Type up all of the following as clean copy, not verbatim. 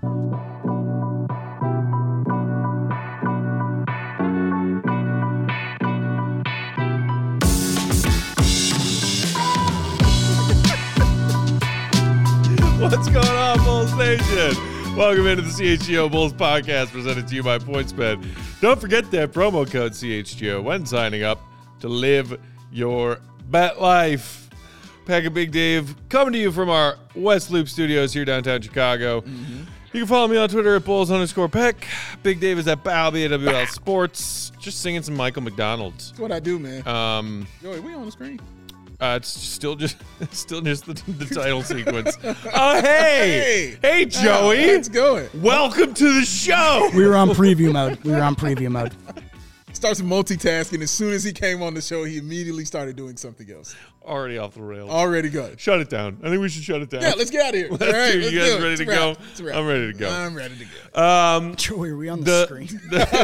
What's going on, Bulls Nation? Welcome into the CHGO Bulls podcast presented to you by PointsBet. Don't forget that promo code CHGO when signing up to live your bet life. Peck and Big Dave coming to you from our West Loop studios here downtown Chicago. Mm-hmm. You can follow me on Twitter at Bulls_Peck. Big Dave is at Balby at WL Sports. Just singing some Michael McDonald. That's what I do, man. Joey, we on the screen? It's still just the title sequence. Oh, hey, Joey. It's going. Welcome to the show. We were on preview mode. Starts multitasking. As soon as he came on the show, he immediately started doing something else. Already off the rails. Already good. Shut it down. I think we should shut it down. Yeah, let's get out of here. All right, you guys ready to go? I'm ready to go. I'm ready to go. Joey, are we on the screen?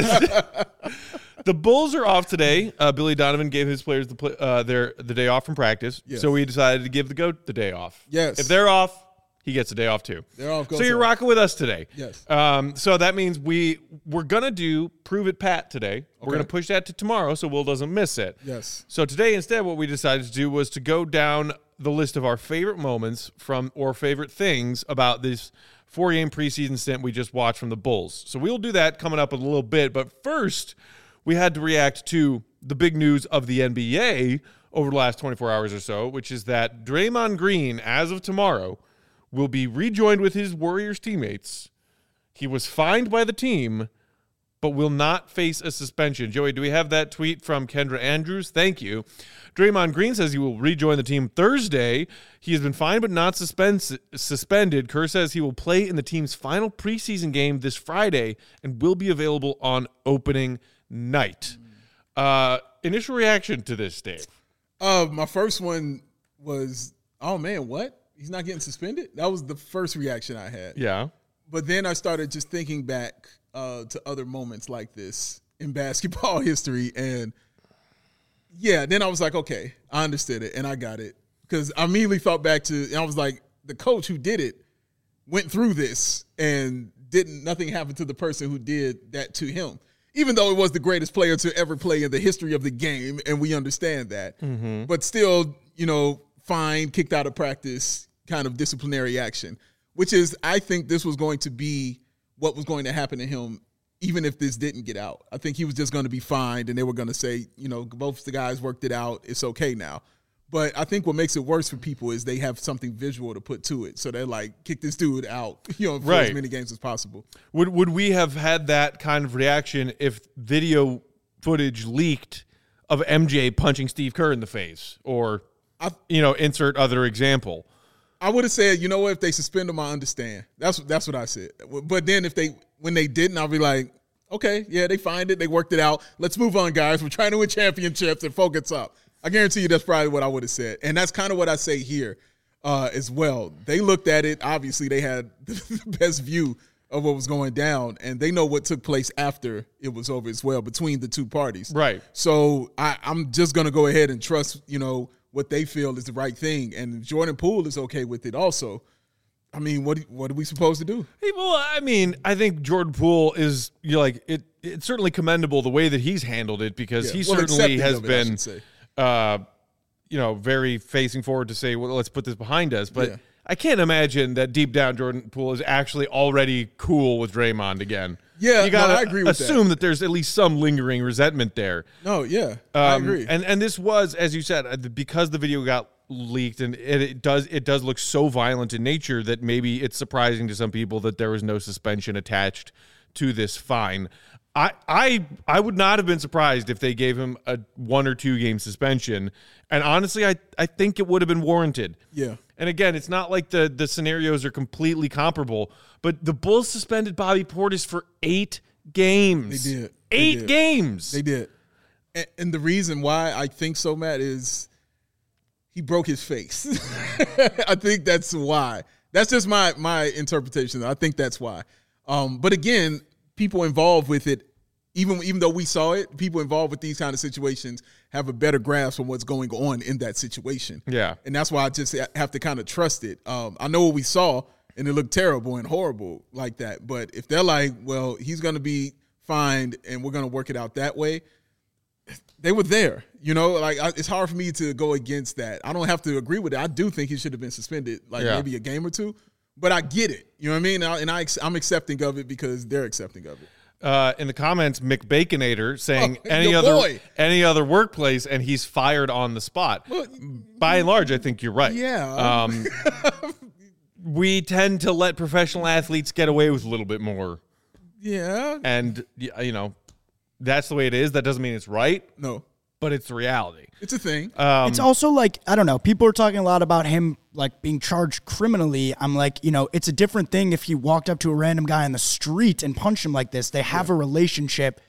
The Bulls are off today. Billy Donovan gave his players the day off from practice, yes. So we decided to give the GOAT the day off. Yes. If they're off, he gets a day off too. They're off. So you're rocking with us today. Yes. So that means we're gonna do Prove It Pat today. Okay. We're gonna push that to tomorrow so Will doesn't miss it. Yes. So today instead, what we decided to do was to go down the list of our favorite moments or favorite things about this 4-game preseason stint we just watched from the Bulls. So we'll do that coming up in a little bit. But first, we had to react to the big news of the NBA over the last 24 hours or so, which is that Draymond Green, as of tomorrow, will be rejoined with his Warriors teammates. He was fined by the team, but will not face a suspension. Joey, do we have that tweet from Kendra Andrews? Thank you. Draymond Green says he will rejoin the team Thursday. He has been fined but not suspended. Kerr says he will play in the team's final preseason game this Friday and will be available on opening night. Initial reaction to this, Dave? My first one was, oh man, what? He's not getting suspended? That was the first reaction I had. Yeah. But then I started just thinking back to other moments like this in basketball history. And yeah, then I was like, okay, I understood it and I got it. Because I immediately thought back to, and I was like, the coach who did it went through this and nothing happened to the person who did that to him. Even though it was the greatest player to ever play in the history of the game, and we understand that. Mm-hmm. But still, fined, kicked out of practice, kind of disciplinary action, which is, I think this was going to be what was going to happen to him even if this didn't get out. I think he was just going to be fined, and they were going to say, both the guys worked it out. It's okay now. But I think what makes it worse for people is they have something visual to put to it. So they're like, kick this dude out, for as many games as possible. Would we have had that kind of reaction if video footage leaked of MJ punching Steve Kerr in the face? Or, insert other example. I would have said, if they suspend him, I understand. That's what I said. But then when they didn't, I'll be like, okay, yeah, they fined it. They worked it out. Let's move on, guys. We're trying to win championships and focus up. I guarantee you that's probably what I would have said. And that's kind of what I say here as well. They looked at it. Obviously, they had the best view of what was going down, and they know what took place after it was over as well between the two parties. Right. So I'm just going to go ahead and trust, what they feel is the right thing. And Jordan Poole is okay with it also. I mean, what are we supposed to do? Well, I think Jordan Poole is, it's certainly commendable the way that he's handled it because he certainly has been – very facing forward to say, well, let's put this behind us. But I can't imagine that deep down Jordan Poole is actually already cool with Draymond again. Yeah, you gotta I agree with assume that there's at least some lingering resentment there. No, yeah, I agree. And this was, as you said, because the video got leaked and it does look so violent in nature that maybe it's surprising to some people that there was no suspension attached to this fine. I would not have been surprised if they gave him a 1 or 2 game suspension. And honestly, I think it would have been warranted. Yeah. And again, it's not like the scenarios are completely comparable, but the Bulls suspended Bobby Portis for 8 games. They did. 8 games. They did. And the reason why I think so, Matt, is he broke his face. I think that's why. That's just my interpretation. I think that's why. But again, people involved with it, even though we saw it, people involved with these kind of situations have a better grasp on what's going on in that situation. Yeah. And that's why I just have to kind of trust it. I know what we saw, and it looked terrible and horrible like that. But if they're like, well, he's going to be fined and we're going to work it out that way, they were there. It's hard for me to go against that. I don't have to agree with it. I do think he should have been suspended, maybe a game or two. But I get it. You know what I mean? And I'm accepting of it because they're accepting of it. In the comments, McBaconator saying any other workplace, and he's fired on the spot. Well, by and large, I think you're right. Yeah. We tend to let professional athletes get away with a little bit more. Yeah. And, that's the way it is. That doesn't mean it's right. No. But it's the reality. It's a thing. It's also I don't know. People are talking a lot about him being charged criminally. I'm it's a different thing if he walked up to a random guy on the street and punched him like this. They have a relationship.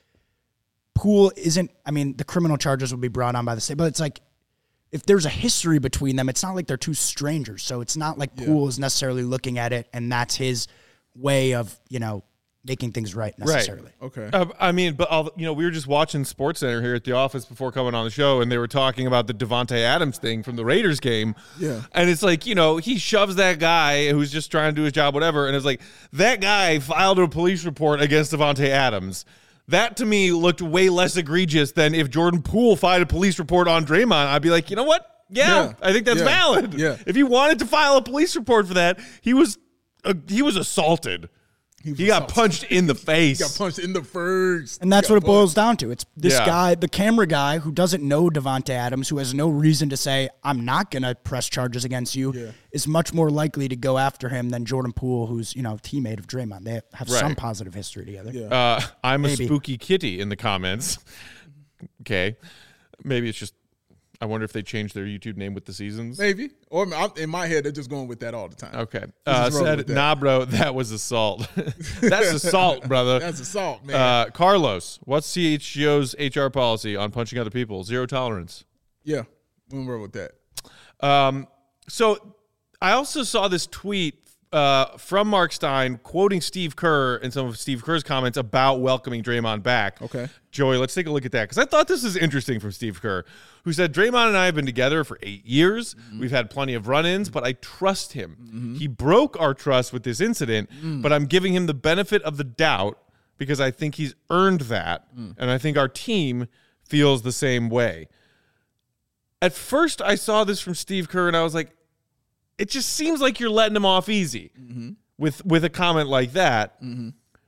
Poole isn't. The criminal charges will be brought on by the state, but it's if there's a history between them, it's not like they're two strangers. So it's not like Poole is necessarily looking at it and that's his way of making things right necessarily. Right. Okay. But we were just watching SportsCenter here at the office before coming on the show, and they were talking about the Davante Adams thing from the Raiders game. Yeah. And it's he shoves that guy who's just trying to do his job, whatever, and it's that guy filed a police report against Davante Adams. That, to me, looked way less egregious than if Jordan Poole filed a police report on Draymond. I'd be like, you know what? Yeah. I think that's valid. Yeah. If he wanted to file a police report for that, he was assaulted. He got punched in the face. He got punched in the face. And that's what it boils down to. It's this guy, the camera guy, who doesn't know Davante Adams, who has no reason to say, I'm not going to press charges against you, is much more likely to go after him than Jordan Poole, who's, teammate of Draymond. They have some positive history together. Yeah. I'm a spooky kitty in the comments. Okay. Maybe it's just, I wonder if they changed their YouTube name with the seasons. Maybe. Or in my head, they're just going with that all the time. Okay. Said, nah, bro, that was assault. That's assault, brother. That's assault, man. Carlos, what's CHGO's HR policy on punching other people? Zero tolerance. Yeah. We were with that. So I also saw this tweet from Mark Stein quoting Steve Kerr and some of Steve Kerr's comments about welcoming Draymond back. Okay. Joey, let's take a look at that because I thought this was interesting from Steve Kerr, who said, Draymond and I have been together for 8 years. Mm-hmm. We've had plenty of run-ins, but I trust him. Mm-hmm. He broke our trust with this incident, but I'm giving him the benefit of the doubt because I think he's earned that, and I think our team feels the same way. At first, I saw this from Steve Kerr, and I was like, it just seems like you're letting him off easy with a comment like that. Mm-hmm.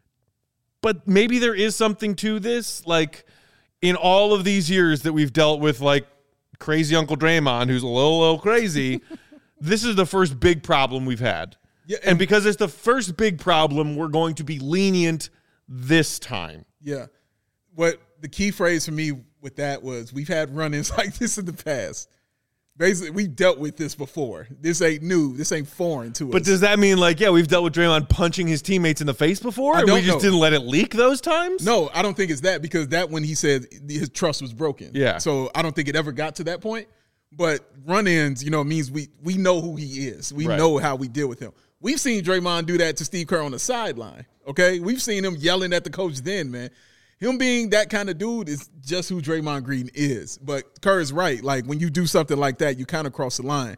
But maybe there is something to this. In all of these years that we've dealt with, crazy Uncle Draymond, who's a little crazy, this is the first big problem we've had. Yeah, and because it's the first big problem, we're going to be lenient this time. Yeah. What the key phrase for me with that was, we've had run-ins like this in the past. Basically, we dealt with this before. This ain't new. This ain't foreign to us. But does that mean, we've dealt with Draymond punching his teammates in the face before? And we just didn't let it leak those times? No, I don't think it's that, because that when he said his trust was broken. Yeah. So I don't think it ever got to that point. But run-ins, means we know who he is. We know how we deal with him. We've seen Draymond do that to Steve Kerr on the sideline, okay? We've seen him yelling at the coach then, man. Him being that kind of dude is just who Draymond Green is. But Kerr is right. When you do something like that, you kind of cross the line.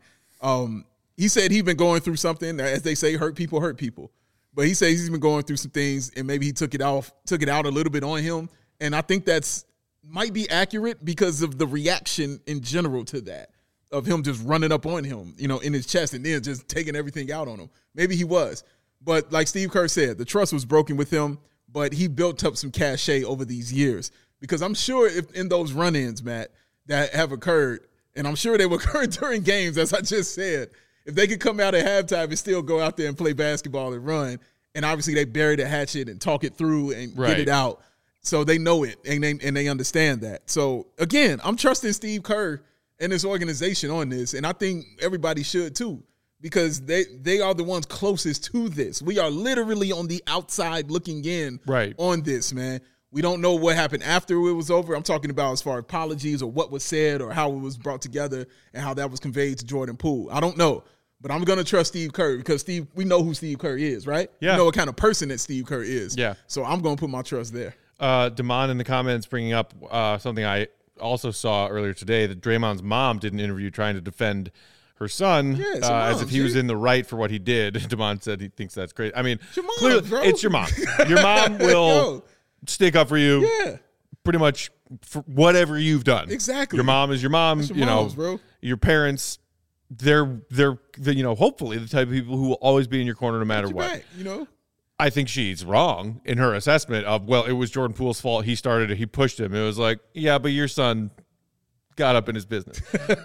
He said he'd been going through something, as they say, hurt people. But he says he's been going through some things, and maybe he took it out a little bit on him. And I think that's might be accurate because of the reaction in general to that, of him just running up on him, in his chest and then just taking everything out on him. Maybe he was. But like Steve Kerr said, the trust was broken with him. But he built up some cachet over these years, because I'm sure if in those run-ins, Matt, that have occurred, and I'm sure they will occur during games, as I just said, if they could come out at halftime and still go out there and play basketball and run, and obviously they bury the hatchet and talk it through and get it out, so they know it and they understand that. So, again, I'm trusting Steve Kerr and his organization on this, and I think everybody should too. Because they are the ones closest to this. We are literally on the outside looking in on this, man. We don't know what happened after it was over. I'm talking about as far as apologies or what was said or how it was brought together and how that was conveyed to Jordan Poole. I don't know. But I'm going to trust Steve Kerr because we know who Steve Kerr is, right? Yeah. We know what kind of person that Steve Kerr is. Yeah. So I'm going to put my trust there. Damon in the comments bringing up something I also saw earlier today, that Draymond's mom did an interview trying to defend her son, Yeah, it's your as mom, if he was G. in the right for what he did. Damon said he thinks that's great. I mean, your mom, clearly, bro. it's your mom. Your mom will Yo. stick up for you. Yeah. Pretty much for whatever you've done. Exactly. Your mom is your mom. That's your you moms, know, bro. Your parents. They're you know, hopefully the type of people who will always be in your corner no matter Your what. back, you know. I think she's wrong in her assessment of, well, it was Jordan Poole's fault. He started it. He pushed him. It was like, yeah, but your son got up in his business.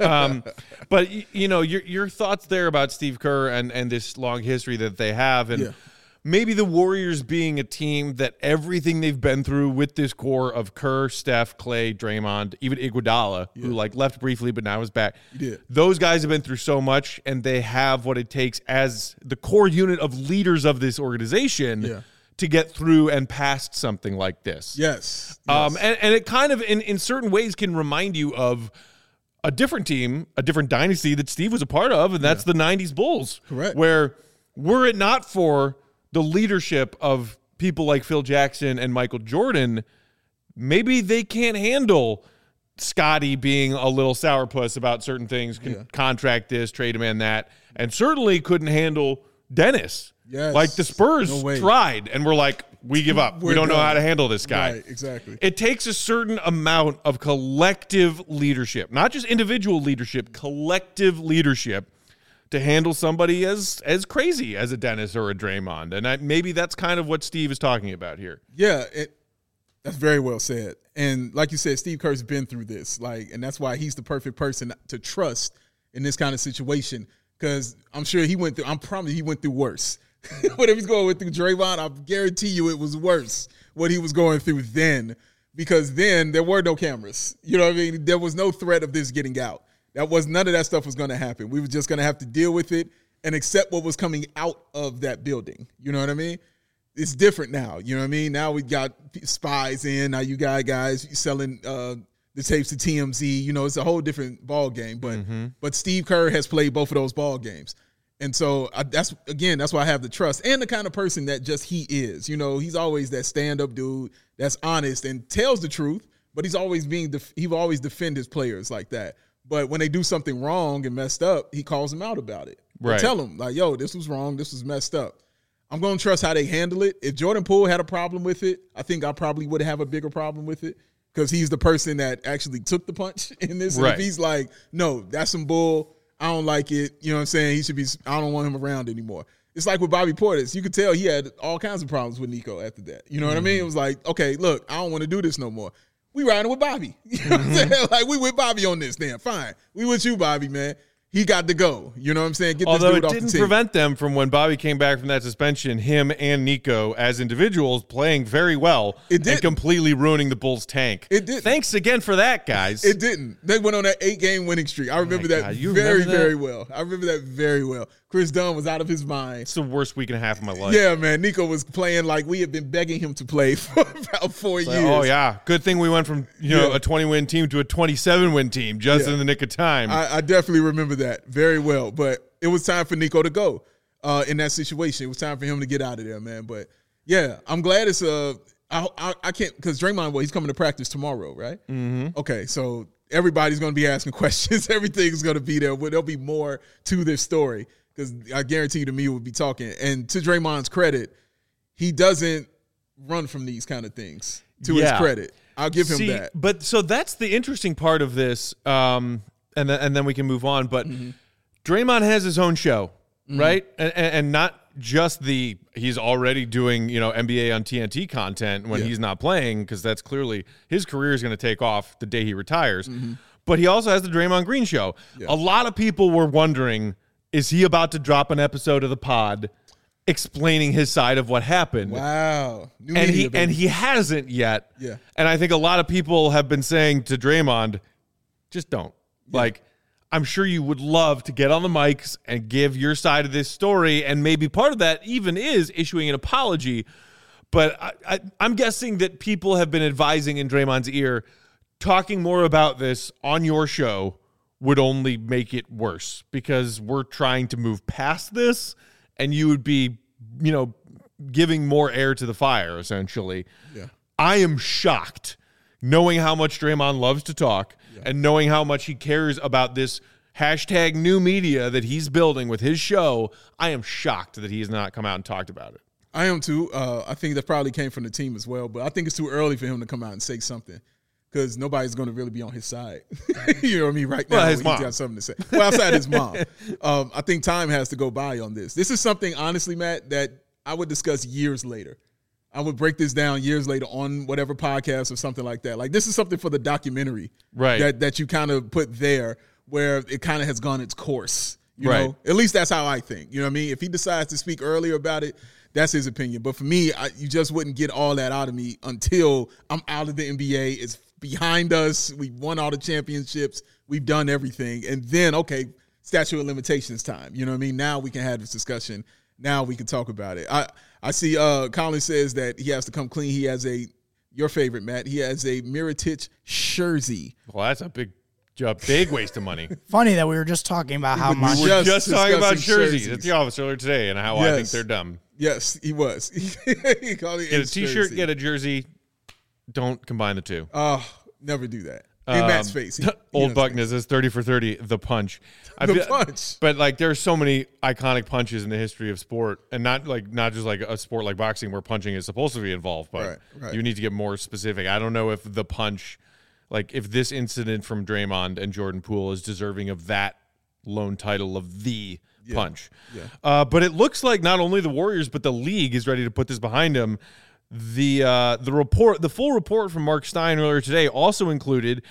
But, you know, your thoughts there about Steve Kerr and this long history that they have, and maybe the Warriors being a team that everything they've been through with this core of Kerr, Steph, Clay, Draymond, even Iguodala, who like left briefly but now is back. Those guys have been through so much, and they have what it takes as the core unit of leaders of this organization to get through and past something like this. Yes. And it kind of, in certain ways, can remind you of a different team, a different dynasty that Steve was a part of, and that's the 90s Bulls. Correct. Where were it not for the leadership of people like Phil Jackson and Michael Jordan, maybe they can't handle Scotty being a little sourpuss about certain things, contract this, trade demand that, and certainly couldn't handle Dennis. Yes. Like the Spurs No way. tried and were like, we give up. We don't know done. how to handle this guy. Right, exactly. It takes a certain amount of collective leadership, not just individual leadership, collective leadership, to handle somebody as crazy as a Dennis or a Draymond. And maybe that's kind of what Steve is talking about here. Yeah, that's very well said. And like you said, Steve Kerr's been through this, and that's why he's the perfect person to trust in this kind of situation. Because I'm sure I'm probably he went through worse. Whatever he's going through Draymond, I guarantee you it was worse what he was going through then. Because then there were no cameras. You know what I mean? There was no threat of this getting out. None of that stuff was going to happen. We were just going to have to deal with it and accept what was coming out of that building. You know what I mean? It's different now. You know what I mean? Now we got spies in. Now you got guys selling the tapes to TMZ. You know, it's a whole different ball game. But Steve Kerr has played both of those ball games. And so that's why I have the trust and the kind of person that just he is. You know, he's always that stand-up dude that's honest and tells the truth, but he will always defend his players like that. But when they do something wrong and messed up, he calls them out about it. Right. Tell them, like, yo, this was wrong. This was messed up. I'm going to trust how they handle it. If Jordan Poole had a problem with it, I think I probably would have a bigger problem with it because he's the person that actually took the punch in this. And Right. if he's like, no, that's some bull, I don't like it, you know what I'm saying? I don't want him around anymore. It's like with Bobby Portis. You could tell he had all kinds of problems with Nico after that. You know what I mean? It was like, okay, look, I don't want to do this no more. We riding with Bobby. You know what I'm saying? Like, we with Bobby on this then. Fine. We with you, Bobby, man. He got to go. You know what I'm saying? Get Although this dude it off the didn't team. prevent them from, when Bobby came back from that suspension, him and Nico as individuals playing very well It did. and completely ruining the Bulls' tank. It did. Thanks again for that, guys. It didn't. They went on that 8-game winning streak. I remember that God, you very, remember that? very well. I remember that very well. Chris Dunn was out of his mind. It's the worst week and a half of my life. Yeah, man. Nico was playing like we had been begging him to play for about 4 years. Oh, yeah. Good thing we went from a 20-win team to a 27-win team just in the nick of time. I definitely remember that very well. But it was time for Nico to go in that situation. It was time for him to get out of there, man. But, yeah, I'm glad it's I can't – because Draymond, he's coming to practice tomorrow, right? Mm-hmm. Okay, so everybody's going to be asking questions. Everything's going to be there. There'll be more to this story because I guarantee you the media will be talking. And to Draymond's credit, he doesn't run from these kind of things, to his credit. I'll give him that. But so that's the interesting part of this, and then we can move on. But Draymond has his own show, right? And not just he's already doing NBA on TNT content when he's not playing, because that's clearly his career is going to take off the day he retires. But he also has the Draymond Green show. A lot of people were wondering, is he about to drop an episode of the pod explaining his side of what happened? Wow. And he hasn't yet. Yeah. And I think a lot of people have been saying to Draymond, just don't. Like, I'm sure you would love to get on the mics and give your side of this story, and maybe part of that even is issuing an apology. But I'm guessing that people have been advising in Draymond's ear, talking more about this on your show would only make it worse, because we're trying to move past this, and you would be, giving more air to the fire, essentially. Yeah. I am shocked, knowing how much Draymond loves to talk and knowing how much he cares about this hashtag new media that he's building with his show, I am shocked that he has not come out and talked about it. I am too. I think that probably came from the team as well, but I think it's too early for him to come out and say something because nobody's going to really be on his side. You know what I mean? Right now, Well, his he's mom. got something to say. Well, outside his mom. I think time has to go by on this. This is something, honestly, Matt, that I would discuss years later. I would break this down years later on whatever podcast or something like that. Like, this is something for the documentary that you kind of put there where it kind of has gone its course. You know? At least that's how I think. You know what I mean? If he decides to speak earlier about it, that's his opinion. But for me, you just wouldn't get all that out of me until I'm out of the NBA. It's behind us. We've won all the championships. We've done everything. And then, okay, statute of limitations time. You know what I mean? Now we can have this discussion. Now we can talk about it. I see Colin says that he has to come clean. He has your favorite, Matt, he has a Mirotic jersey. Well, that's a big waste of money. Funny that we were just talking about how much. We were just talking about jerseys jerseys at the office earlier today and how I think they're dumb. Yes, he was. He called it Get a T-shirt, get a jersey. Don't combine the two. Oh, never do that. In Matt's face. Old Buckner says 30 for 30, the punch. Punch. But like there's so many iconic punches in the history of sport, and not just like a sport like boxing where punching is supposed to be involved, but Right. you need to get more specific. I don't know if the punch, like if this incident from Draymond and Jordan Poole is deserving of that lone title of the punch. Yeah. But it looks like not only the Warriors but the league is ready to put this behind them. The full report from Mark Stein earlier today also included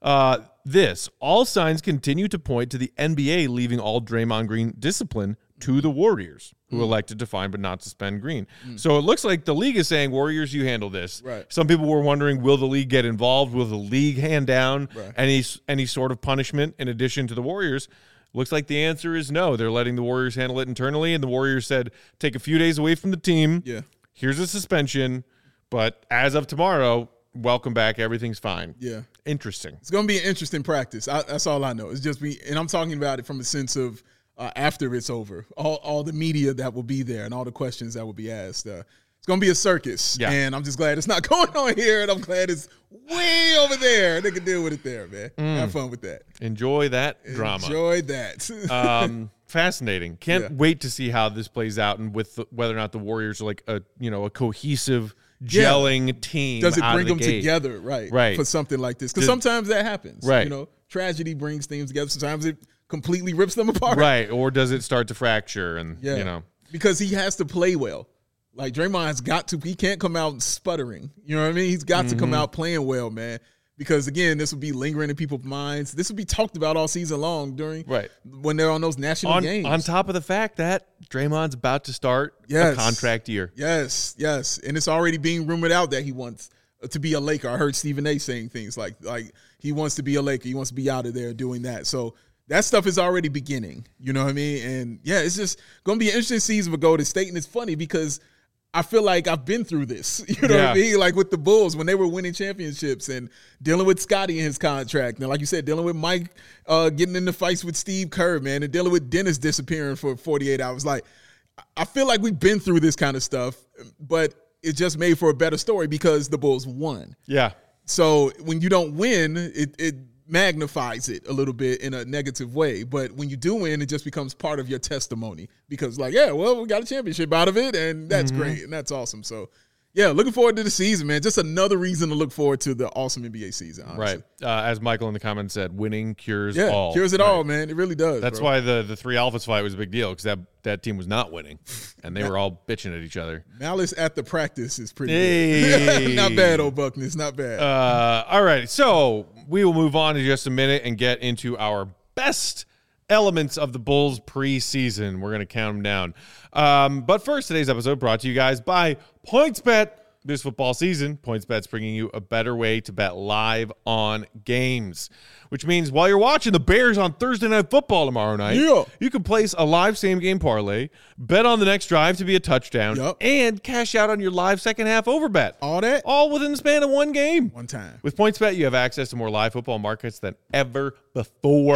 this. All signs continue to point to the NBA leaving all Draymond Green discipline to the Warriors, who elected to fine but not suspend Green. So it looks like the league is saying, Warriors, you handle this. Right. Some people were wondering, will the league get involved? Will the league hand down any sort of punishment in addition to the Warriors? Looks like the answer is no. They're letting the Warriors handle it internally, and the Warriors said, take a few days away from the team. Yeah. Here's a suspension, but as of tomorrow, welcome back. Everything's fine. Yeah. Interesting. It's going to be an interesting practice. That's all I know. It's just and I'm talking about it from a sense of after it's over, all the media that will be there and all the questions that will be asked. It's going to be a circus, and I'm just glad it's not going on here, and I'm glad it's way over there. They can deal with it there, man. Have fun with that. Enjoy that drama. Enjoy that. Fascinating. Can't wait to see how this plays out and with whether or not the Warriors are like a cohesive, gelling team. Does it out bring of the them gate. together, right, for something like this? Because sometimes that happens. Right. You know, tragedy brings teams together. Sometimes it completely rips them apart. Right. Or does it start to fracture? And, because he has to play well. Like Draymond has got to, he can't come out sputtering. You know what I mean? He's got to come out playing well, man. Because again, this will be lingering in people's minds. This will be talked about all season long when they're on those national games. On top of the fact that Draymond's about to start a contract year. Yes. And it's already being rumored out that he wants to be a Laker. I heard Stephen A. saying things like he wants to be a Laker. He wants to be out of there doing that. So that stuff is already beginning. You know what I mean? And it's just going to be an interesting season for Golden State. And it's funny because I feel like I've been through this, you know what I mean? Like with the Bulls when they were winning championships and dealing with Scottie and his contract. And like you said, dealing with Mike getting into fights with Steve Kerr, man, and dealing with Dennis disappearing for 48 hours. Like, I feel like we've been through this kind of stuff, but it just made for a better story because the Bulls won. Yeah. So when you don't win, it magnifies it a little bit in a negative way. But when you do win, it just becomes part of your testimony because we got a championship out of it, and that's great, and that's awesome. So, looking forward to the season, man. Just another reason to look forward to the awesome NBA season, honestly. Right. As Michael in the comments said, winning cures all. Cures it all, man. It really does. That's why the three Alphas fight was a big deal because that team was not winning, and they were all bitching at each other. Malice at the practice is pretty good. Not bad, old Buckner. It's not bad. All right, so we will move on in just a minute and get into our best elements of the Bulls preseason. We're going to count them down. But first, today's episode brought to you guys by PointsBet. This football season, PointsBet's bringing you a better way to bet live on games, which means while you're watching the Bears on Thursday Night Football tomorrow night, you can place a live same-game parlay, bet on the next drive to be a touchdown, and cash out on your live second-half overbet. All within the span of one game. One time. With PointsBet, you have access to more live football markets than ever before.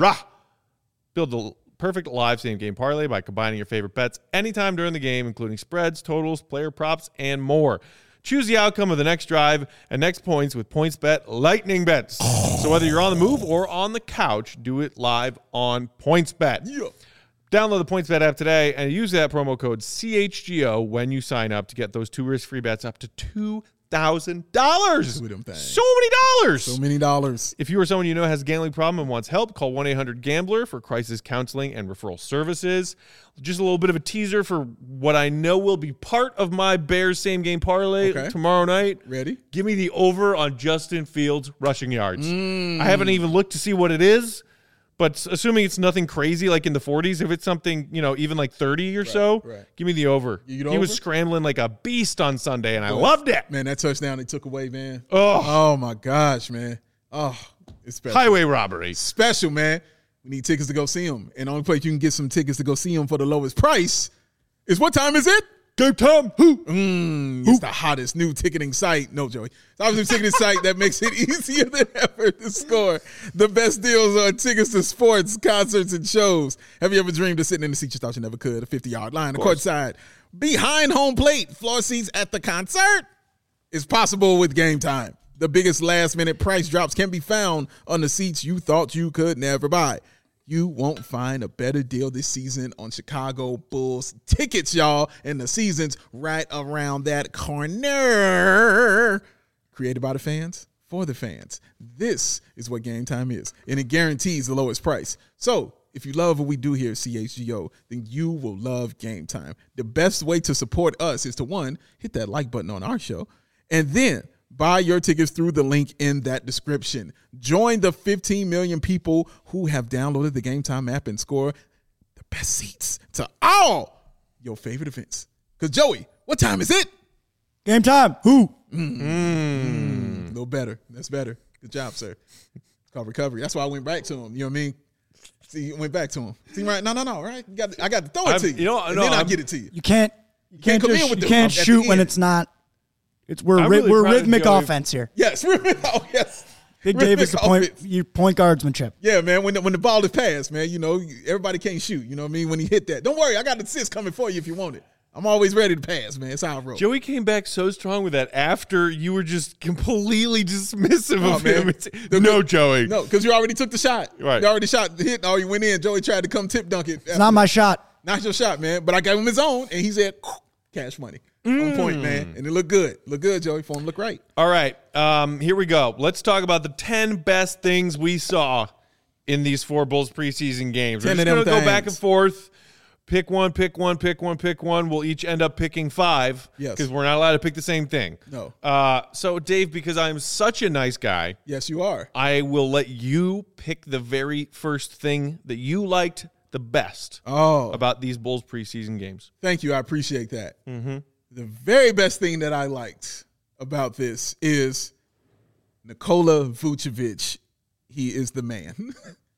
Build the perfect live same-game parlay by combining your favorite bets anytime during the game, including spreads, totals, player props, and more. Choose the outcome of the next drive and next points with PointsBet Lightning Bets. So whether you're on the move or on the couch, do it live on PointsBet. Yeah. Download the PointsBet app today and use that promo code CHGO when you sign up to get those 2 risk-free bets up to $2,000. With them things. So many dollars. So many dollars. If you or someone you know has a gambling problem and wants help, call 1-800-GAMBLER for crisis counseling and referral services. Just a little bit of a teaser for what I know will be part of my Bears same-game parlay tomorrow night. Ready? Give me the over on Justin Fields' rushing yards. I haven't even looked to see what it is, but assuming it's nothing crazy like in the 40s, if it's something, even like 30 or so, give me the over. He was scrambling like a beast on Sunday, and I loved it. Man, that touchdown they took away, man. Oh, my gosh, man. Oh, it's special. Highway robbery. Special, man. We need tickets to go see him. And the only place you can get some tickets to go see him for the lowest price is what time is it? Game time. It's the hottest new ticketing site. No, Joey. It's obviously a ticketing site that makes it easier than ever to score the best deals on tickets to sports, concerts, and shows. Have you ever dreamed of sitting in the seat you thought you never could? A 50-yard line, a courtside, behind home plate, floor seats at the concert? It's possible with Game Time. The biggest last-minute price drops can be found on the seats you thought you could never buy. You won't find a better deal this season on Chicago Bulls tickets, y'all. And the season's right around that corner. Created by the fans, for the fans. This is what Game Time is. And it guarantees the lowest price. So if you love what we do here at CHGO, then you will love Game Time. The best way to support us is to, 1, hit that like button on our show. And then buy your tickets through the link in that description. Join the 15 million people who have downloaded the Game Time app and score the best seats to all your favorite events. Because, Joey, what time is it? Game time. Who? A little better. That's better. Good job, sir. It's called recovery. That's why I went back to him. You know what I mean? See, you went back to him. See, right? No, right? I got to throw it to you. And then I'll get it to you. You can't come in with you can't shoot when it's not. We're rhythmic offense here. Yes, yes. Big Dave is the point guardsmanship. Yeah, man. When the ball is passed, man, everybody can't shoot. You know what I mean? When he hit that, don't worry, I got the assist coming for you if you want it. I'm always ready to pass, man. It's how I roll. Joey came back so strong with that after you were just completely dismissive of him. No, Joey. No, because you already took the shot. Right. You already shot the hit. Oh, you went in. Joey tried to come tip dunk it. It's not my shot. Not your shot, man. But I gave him his own, and he said, cash money. On point, man. And it looked good. Look good, Joey. For him, look right. All right. Here we go. Let's talk about the 10 best things we saw in these 4 Bulls preseason games. We're just going to go back and forth. Pick one. We'll each end up picking 5. Yes. Because we're not allowed to pick the same thing. No. So, Dave, because I'm such a nice guy. Yes, you are. I will let you pick the very first thing that you liked the best about these Bulls preseason games. Thank you. I appreciate that. Mm-hmm. The very best thing that I liked about this is Nikola Vucevic. He is the man.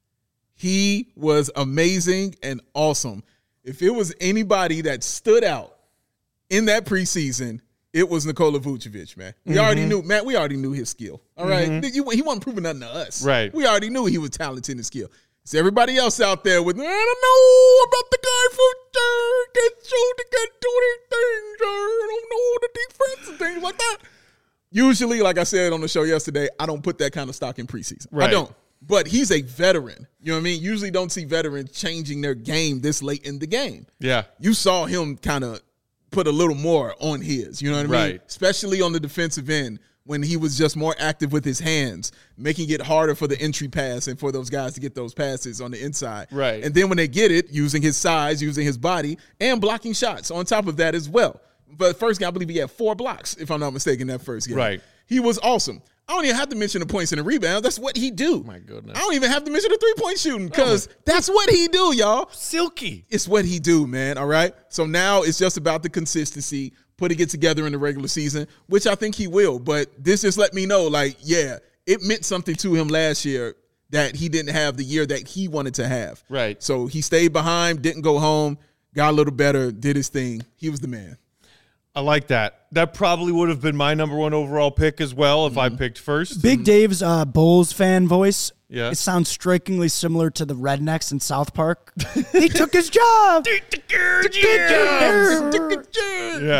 He was amazing and awesome. If it was anybody that stood out in that preseason, it was Nikola Vucevic, man. We already knew, Matt, we already knew his skill. All right? He wasn't proving nothing to us. Right. We already knew he was talented and skilled. It's everybody else out there with, I don't know about the guy from that show that can do anything, I don't know the defense and things like that. Usually, like I said on the show yesterday, I don't put that kind of stock in preseason. Right. I don't. But he's a veteran. You know what I mean? Usually don't see veterans changing their game this late in the game. Yeah. You saw him kind of put a little more on his, you know what I mean? Right. Especially on the defensive end when he was just more active with his hands, making it harder for the entry pass and for those guys to get those passes on the inside. Right. And then when they get it, using his size, using his body, and blocking shots on top of that as well. But first game, I believe he had 4 blocks, if I'm not mistaken, that first game. Right. He was awesome. I don't even have to mention the points and the rebounds. That's what he do. My goodness. I don't even have to mention the 3-point shooting because that's what he do, y'all. Silky. It's what he do, man, all right? So now it's just about the consistency, putting it together in the regular season, which I think he will. But this just let me know, like, yeah, it meant something to him last year that he didn't have the year that he wanted to have. Right. So he stayed behind, didn't go home, got a little better, did his thing. He was the man. I like that. That probably would have been my number 1 overall pick as well if I picked first. Big Dave's Bulls fan voice. Yeah. It sounds strikingly similar to the Rednecks in South Park. He took his job. Yeah.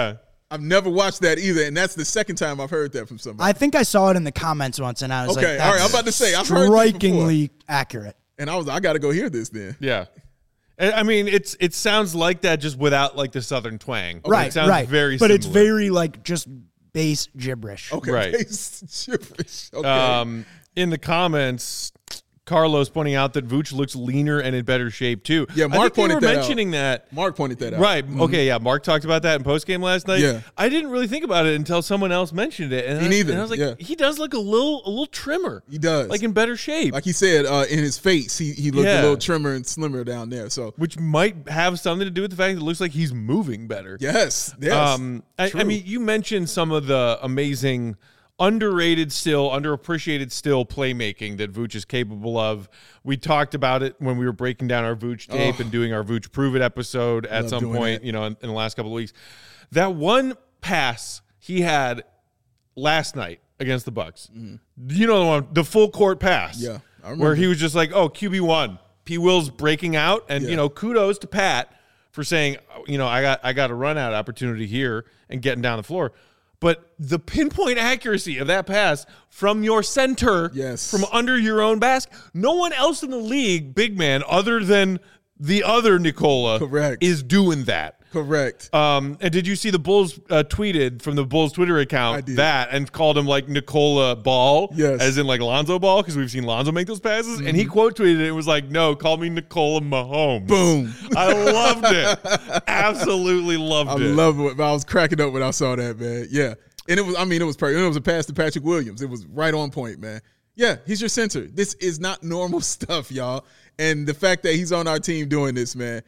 I've never watched that either, and that's the second time I've heard that from somebody. I think I saw it in the comments once, and I was like, Okay, all right, I'm about to say, I've heard this strikingly accurate. And I got to go hear this then. Yeah. I mean, it sounds like that just without like the Southern twang. Right, It sounds right. very but similar. it's very like just base gibberish. Okay, Right. gibberish. Okay. In the comments, Carlos pointing out that Vooch looks leaner and in better shape too. Yeah, Mark I think pointed they were that out. mentioning that. Mark pointed that out. Right. Okay. Yeah. Mark talked about that in postgame last night. Yeah. I didn't really think about it until someone else mentioned it. And Me neither. And I was like, Yeah. he does look a little trimmer. He does. Like in better shape. Like he said, in his face, he looked Yeah. a little trimmer and slimmer down there. So which might have something to do with the fact that it looks like he's moving better. yes. I True. mean, you mentioned some of the amazing, underrated still, underappreciated still playmaking that Vooch is capable of. We talked about it when we were breaking down our Vooch tape and doing our Vooch Prove It episode at Love some doing point, that. you know, in the last couple of weeks. That one pass he had last night against the Bucks, you know the one, the full court pass. Yeah, I remember. where he was just like, oh, QB1, P. Will's breaking out, and Yeah. you know, kudos to Pat for saying, you know, I got a run out opportunity here and getting down the floor. But the pinpoint accuracy of that pass from your center, Yes. from under your own basket, no one else in the league, big man, other than the other Nicola, Correct. is doing that. Correct. And did you see the Bulls tweeted from the Bulls Twitter I account did. that and called him like Nicola Ball, Yes. as in like Lonzo Ball, because we've seen Lonzo make those passes, and he quote tweeted it. It was like, "No, call me Nicola Mahomes." Boom. I loved it. Absolutely loved I it. love it. I was cracking up when I saw that, man. Yeah. And it was perfect. It was a pass to Patrick Williams. It was right on point, man. Yeah, he's your center. This is not normal stuff, y'all. And the fact that he's on our team doing this, man,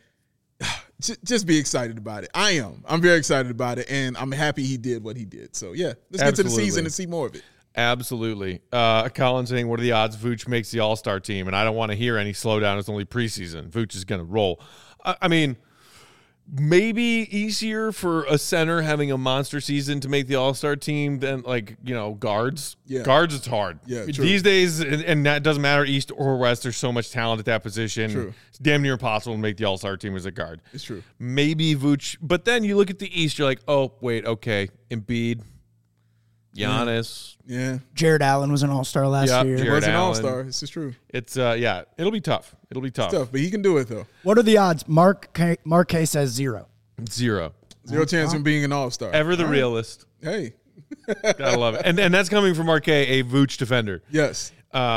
just be excited about it. I am. I'm very excited about it, and I'm happy he did what he did. So, yeah, let's get to the Absolutely. season and see more of it. Absolutely. Colin saying, what are the odds Vooch makes the All-Star team? And I don't want to hear any slowdown. It's only preseason. Vooch is going to roll. I mean, maybe easier for a center having a monster season to make the All-Star team than, like, you know, guards. Yeah. Guards, it's hard. Yeah, true. These days, and that doesn't matter East or West, there's so much talent at that position. True. It's damn near impossible to make the All-Star team as a guard. It's true. Maybe Vooch. But then you look at the East, you're like, oh, wait, okay. Embiid, Giannis. Yeah. Jared Allen was an all-star last Yep, year. Jared He was an Allen. all-star. This is true. It's yeah, it'll be tough. It'll be tough. Tough, but he can do it, though. What are the odds? Mark K says 0. Zero. Zero chance of him being an all-star. Ever the realist. Hey. Gotta love it. And that's coming from Marquet, a Vooch defender. Yes.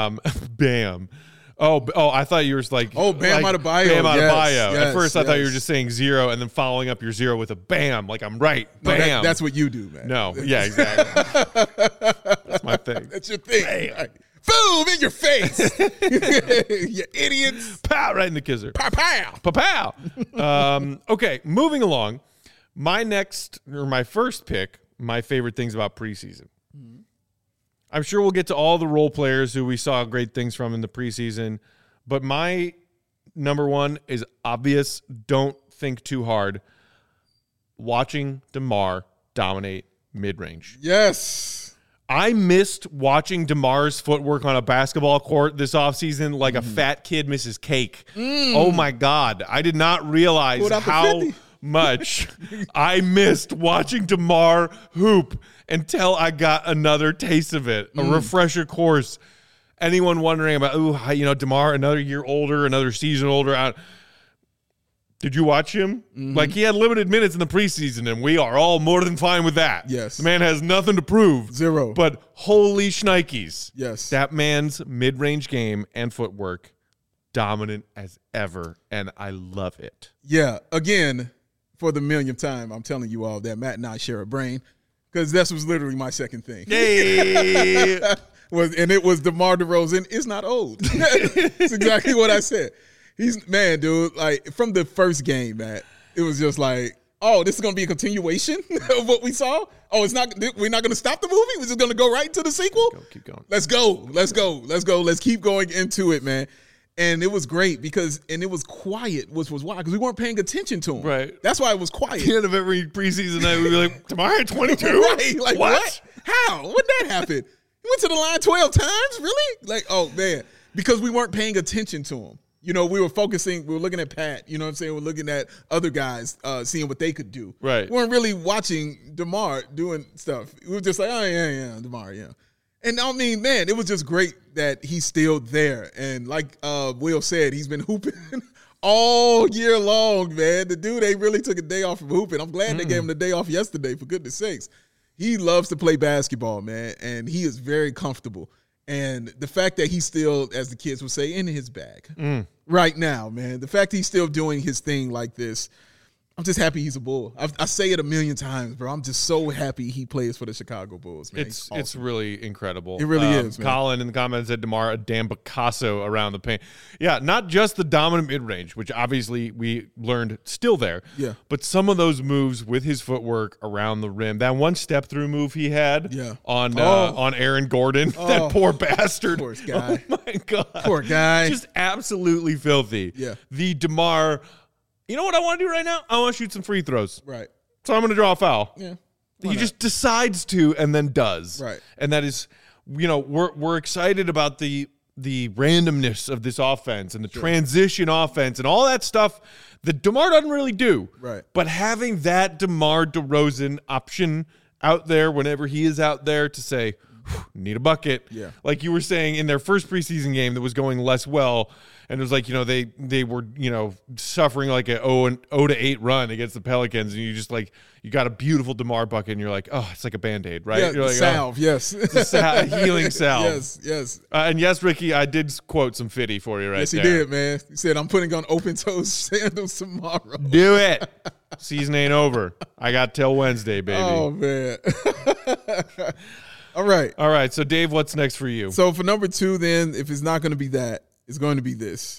Bam. Oh, I thought you were like, Bam like, Adebayo. Bam Adebayo. Yes, At first, I thought you were yes. just saying zero and then following up your zero with a bam. Like, I'm right. No, Bam. that's what you do, man. No, yeah, exactly. That's my thing. That's your thing. Right. Boom in your face. You idiots. Pow, right in the kisser. Pow, pow. Pa-pow. Okay, moving along. My first pick, my favorite things about preseason. I'm sure we'll get to all the role players who we saw great things from in the preseason, but my number one is obvious. Don't think too hard. Watching DeMar dominate mid-range. Yes. I missed watching DeMar's footwork on a basketball court this offseason like a fat kid misses cake. Oh, my God. I did not realize Pulled out the how 50. much I missed watching DeMar hoop until I got another taste of it, a refresher course. Anyone wondering about, DeMar, another year older, another season older. Did you watch him? Like, he had limited minutes in the preseason, and we are all more than fine with that. Yes. The man has nothing to prove. Zero. But holy shnikes. Yes. That man's mid-range game and footwork, dominant as ever, and I love it. Yeah. Again, for the millionth time, I'm telling you all that Matt and I share a brain because this was literally my second thing. Hey! And it was DeMar DeRozan is not old. That's exactly what I said. Man, dude, like from the first game, Matt, it was just like, oh, this is going to be a continuation of what we saw. Oh, we're not going to stop the movie. We're just going to go right into the sequel. Keep going. Let's go. Let's keep going into it, man. And it was great and it was quiet, which was why, because we weren't paying attention to him. Right. That's why it was quiet. At the end of every preseason night, we'd be like, DeMar at 22? Right. Like, what? How? When that happen? He went to the line 12 times? Really? Like, oh, man. Because we weren't paying attention to him. You know, we were looking at Pat, you know what I'm saying? We're looking at other guys, seeing what they could do. Right. We weren't really watching DeMar doing stuff. We were just like, oh, yeah, DeMar, yeah. And I mean, man, it was just great that he's still there. And like Will said, he's been hooping all year long, man. The dude ain't really took a day off from hooping. I'm glad they gave him the day off yesterday, for goodness sakes. He loves to play basketball, man, and he is very comfortable. And the fact that he's still, as the kids would say, in his bag right now, man, the fact he's still doing his thing like this, I'm just happy he's a Bull. I say it a million times, bro. I'm just so happy he plays for the Chicago Bulls, man. It's really incredible. It really is, man. Colin in the comments said DeMar a damn Picasso around the paint. Yeah, not just the dominant mid-range, which obviously we learned still there. Yeah. But some of those moves with his footwork around the rim. That one step-through move he had on Aaron Gordon. That poor bastard. Poor guy. Oh, my God. Poor guy. Just absolutely filthy. Yeah. The DeMar... You know what I want to do right now? I want to shoot some free throws. Right. So I'm going to draw a foul. Yeah. He just decides to and then does. Right. And that is, you know, we're excited about the randomness of this offense and the transition offense and all that stuff that DeMar doesn't really do. Right. But having that DeMar DeRozan option out there whenever he is out there to say, need a bucket. Yeah. Like you were saying in their first preseason game that was going less well. And it was like, you know, they were, you know, suffering like a 0-8 run against the Pelicans. And you just like, you got a beautiful DeMar bucket and you're like, oh, it's like a Band-Aid, right? Yeah, you're like, salve, yes. It's a healing salve. Yes. And yes, Ricky, I did quote some Fitty for you Yes, he there. did, man. He said, I'm putting on open-toed sandals tomorrow. Do it. Season ain't over. I got till Wednesday, baby. Oh, man. All right. So, Dave, what's next for you? So, for number 2, then, if it's not going to be that, it's going to be this.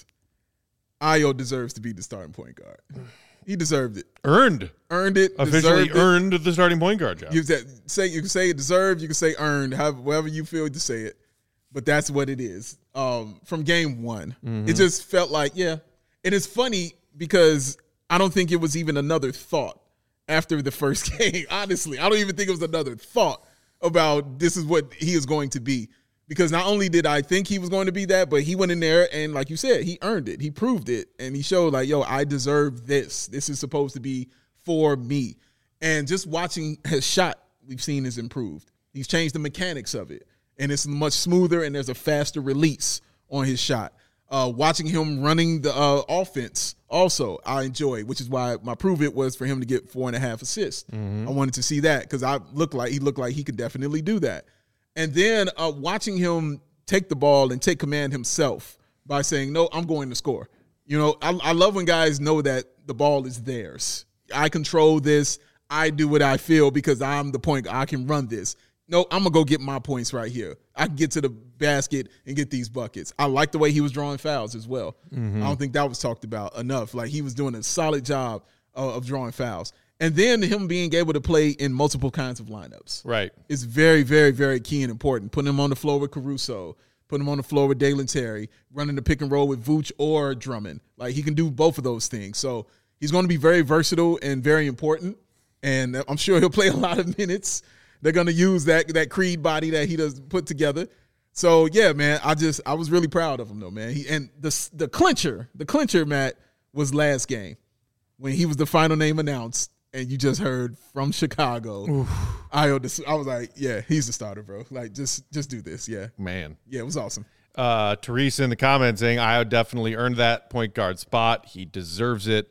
Ayo deserves to be the starting point guard. He deserved it. Earned it. Officially earned the starting point guard job. You can say it deserved. You can say earned. However you feel to say it. But that's what it is. From game 1, it just felt like, yeah. And it's funny because I don't think it was even another thought after the first game. Honestly, I don't even think it was another thought about this is what he is going to be. Because not only did I think he was going to be that, but he went in there and, like you said, he earned it. He proved it. And he showed like, yo, I deserve this. This is supposed to be for me. And just watching his shot, we've seen is improved. He's changed the mechanics of it. And it's much smoother and there's a faster release on his shot. Watching him running the offense also I enjoy, which is why my prove it was for him to get 4.5 assists. I wanted to see that because he looked like he could definitely do that. And then watching him take the ball and take command himself by saying, no, I'm going to score. You know, I love when guys know that the ball is theirs. I control this. I do what I feel because I'm the point. I can run this. No, I'm going to go get my points right here. I can get to the basket and get these buckets. I like the way he was drawing fouls as well. I don't think that was talked about enough. Like he was doing a solid job of drawing fouls. And then him being able to play in multiple kinds of lineups. Right. Is very, very, very key and important. Putting him on the floor with Caruso, putting him on the floor with Dalen Terry, running the pick and roll with Vooch or Drummond. Like he can do both of those things. So he's going to be very versatile and very important. And I'm sure he'll play a lot of minutes. They're going to use that Creed body that he does put together. So yeah, man, I was really proud of him though, man. And the clincher, Matt, was last game when he was the final name announced. And you just heard from Chicago. I was like, yeah, he's the starter, bro. Like, just do this. Yeah. Man. Yeah, it was awesome. Teresa in the comments saying, Ayo definitely earned that point guard spot. He deserves it.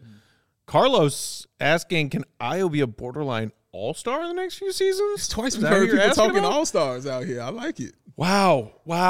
Carlos asking, can Ayo be a borderline all-star in the next few seasons? It's twice we've heard people talking all-stars out here. I like it. Wow.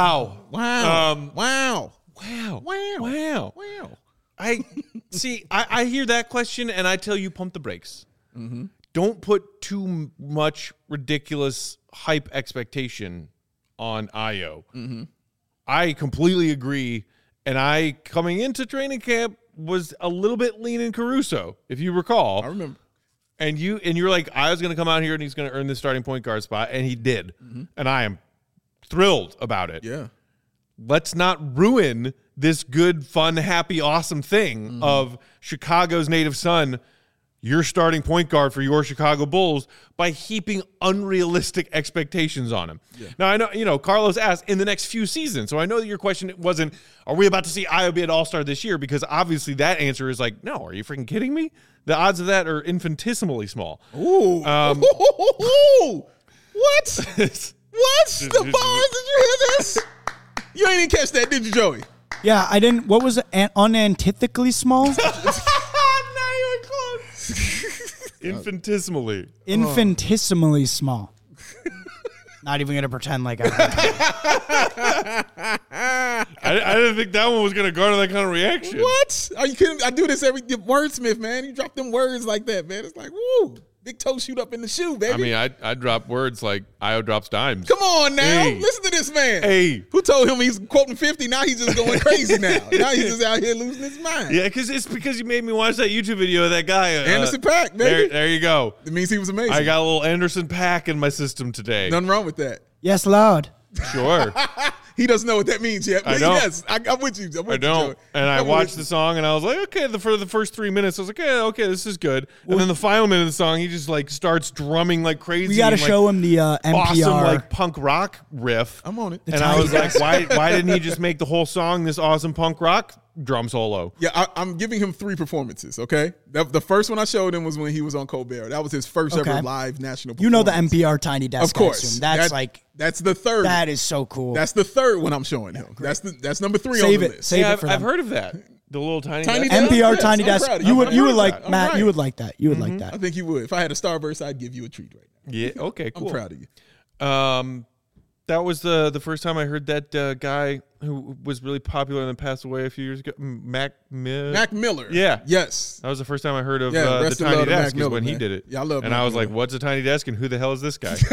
I see. I hear that question, and I tell you, pump the brakes. Don't put too much ridiculous hype expectation on Ayo. I completely agree, and I coming into training camp was a little bit leaning Caruso, if you recall. I remember. And you're like, Ayo's going to come out here and he's going to earn the starting point guard spot, and he did. And I am thrilled about it. Yeah. Let's not ruin this good, fun, happy, awesome thing of Chicago's native son. your starting point guard for your Chicago Bulls by heaping unrealistic expectations on him. Yeah. Now, I know, Carlos asked in the next few seasons. So I know that your question wasn't, are we about to see Ayo be an all-star this year? Because obviously that answer is like, no, are you freaking kidding me? The odds of that are infinitesimally small. Ooh. What? What? The bars? Did you hear this? You ain't even catch that, did you, Joey? Yeah, I didn't. What was it? Unantithetically small? Not even close. Infinitesimally. Infinitesimally small. Not even going to pretend like I didn't think that one was going to garner that kind of reaction. What? Are you kidding? I do this every wordsmith, man. You drop them words like that, man. It's like, woo. Big toe shoot up in the shoe, baby. I mean, I drop words like Ayo drops dimes. Come on now. Hey. Listen to this man. Hey. Who told him he's quoting 50? Now he's just going crazy now. Now he's just out here losing his mind. Yeah, because you made me watch that YouTube video of that guy. Anderson .Paak, baby. There you go. It means he was amazing. I got a little Anderson .Paak in my system today. Nothing wrong with that. Yes, Lord. Sure. He doesn't know what that means yet. I don't. Yes, I'm with you. I don't. And I watched the song and I was like, okay, for the first 3 minutes, I was like, yeah, okay, this is good. And then the final minute of the song, he just like starts drumming like crazy. We got to show him the NPR. Awesome like punk rock riff. I'm on it. And I was like, why didn't he just make the whole song this awesome punk rock drum solo? Yeah, I'm giving him 3 performances, okay? The first one I showed him was when he was on Colbert. That was his first ever live national performance. You know the NPR Tiny Desk. Of course. That's the third. That is so cool. That's the third one I'm showing him. That's number 3 Save on the it. list. Save it for I've them. heard of that. The little tiny Tiny desk. Desk? NPR Yes, Tiny I'm Desk. proud of You you. would like I'm Matt. right. You would like that. You would like that. I think you would. If I had a Starburst, I'd give you a treat right now. Yeah. Okay. Cool. I'm proud of you. That was the first time I heard that guy who was really popular and then passed away a few years ago, Mac Miller. Yeah. Yes. That was the first time I heard of Yeah, the rest in Tiny love to Mac Desk is Miller, when he man. did it. Yeah, I love And Mac I was like, Miller. what's a Tiny Desk and who the hell is this guy?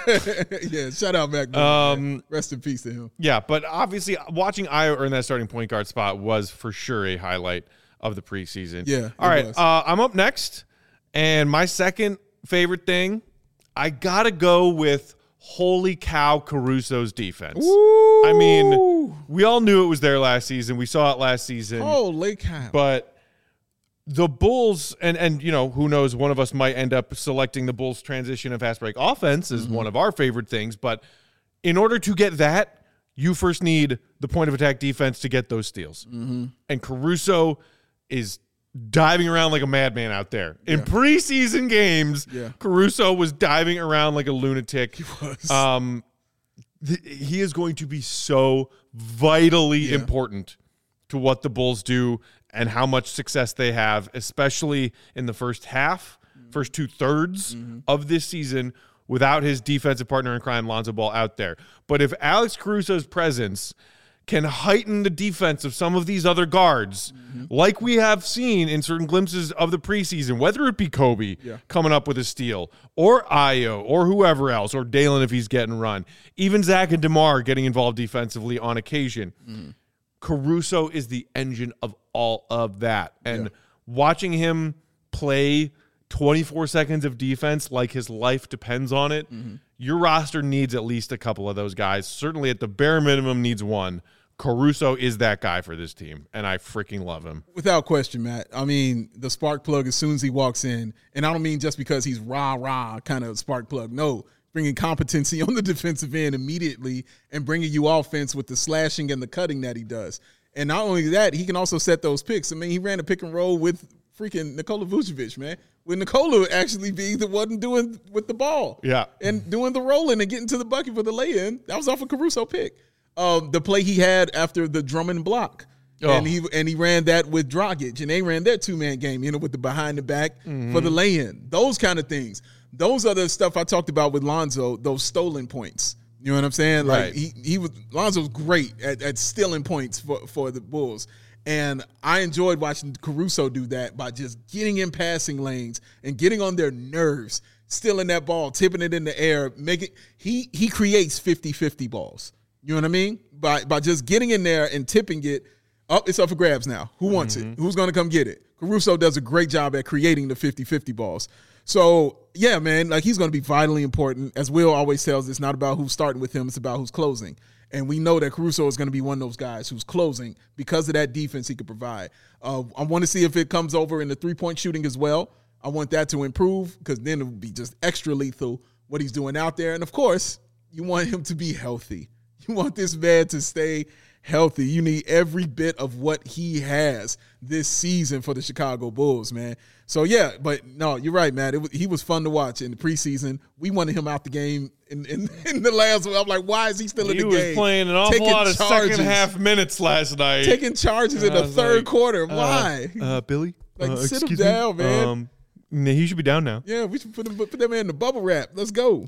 Yeah, shout out Mac Miller. Man. Rest in peace to him. Yeah, but obviously watching Ayo earn that starting point guard spot was for sure a highlight of the preseason. Yeah, All right, was. I'm up next, and my second favorite thing, I got to go with holy cow Caruso's defense. Ooh. I mean, we all knew it was there last season. We saw it last season. Holy cow. But the Bulls, and who knows, one of us might end up selecting the Bulls' transition and fast break offense as one of our favorite things. But in order to get that, you first need the point of attack defense to get those steals. And Caruso is diving around like a madman out there. In preseason games, Caruso was diving around like a lunatic. He was. He is going to be so vitally important to what the Bulls do and how much success they have, especially in the first 2/3 of this season without his defensive partner in crime, Lonzo Ball, out there. But if Alex Caruso's presence can heighten the defense of some of these other guards, like we have seen in certain glimpses of the preseason, whether it be Kobe coming up with a steal, or Ayo, or whoever else, or Dalen if he's getting run, even Zach and DeMar getting involved defensively on occasion. Caruso is the engine of all of that. And watching him play 24 seconds of defense like his life depends on it, your roster needs at least a couple of those guys. Certainly at the bare minimum needs one. Caruso is that guy for this team, and I freaking love him. Without question, Matt. I mean, the spark plug as soon as he walks in, and I don't mean just because he's rah-rah kind of spark plug. No, bringing competency on the defensive end immediately and bringing you offense with the slashing and the cutting that he does. And not only that, he can also set those picks. I mean, he ran a pick and roll with freaking Nikola Vucevic, man. With Nikola actually being the one doing with the ball. Yeah. And doing the rolling and getting to the bucket for the lay-in. That was off a Caruso pick. The play he had after the Drummond block. And he ran that with Dragic, and they ran their 2-man game, with the behind the back for the lay-in. Those kind of things. Those are the stuff I talked about with Lonzo, those stolen points. You know what I'm saying? Right. Like Lonzo was great at stealing points for the Bulls. And I enjoyed watching Caruso do that by just getting in passing lanes and getting on their nerves, stealing that ball, tipping it in the air, he creates 50-50 balls. You know what I mean? By just getting in there and tipping it, it's up for grabs now. Who wants it? Who's going to come get it? Caruso does a great job at creating the 50-50 balls. So, yeah, man, like he's going to be vitally important. As Will always tells, it's not about who's starting with him, it's about who's closing. And we know that Caruso is going to be one of those guys who's closing because of that defense he could provide. I want to see if it comes over in the three-point shooting as well. I want that to improve because then it would be just extra lethal what he's doing out there. And, of course, you want him to be healthy. You want this man to stay healthy. You need every bit of what he has this season for the Chicago Bulls, man. So, yeah, but no, you're right, man. He was fun to watch in the preseason. We wanted him out the game in the last one. I'm like, why is he still in the game? He was playing an awful lot of second half minutes last night. Taking charges in the third quarter. Why? Billy? Like, sit him down, man. He should be down now. Yeah, we should put that man in the bubble wrap. Let's go.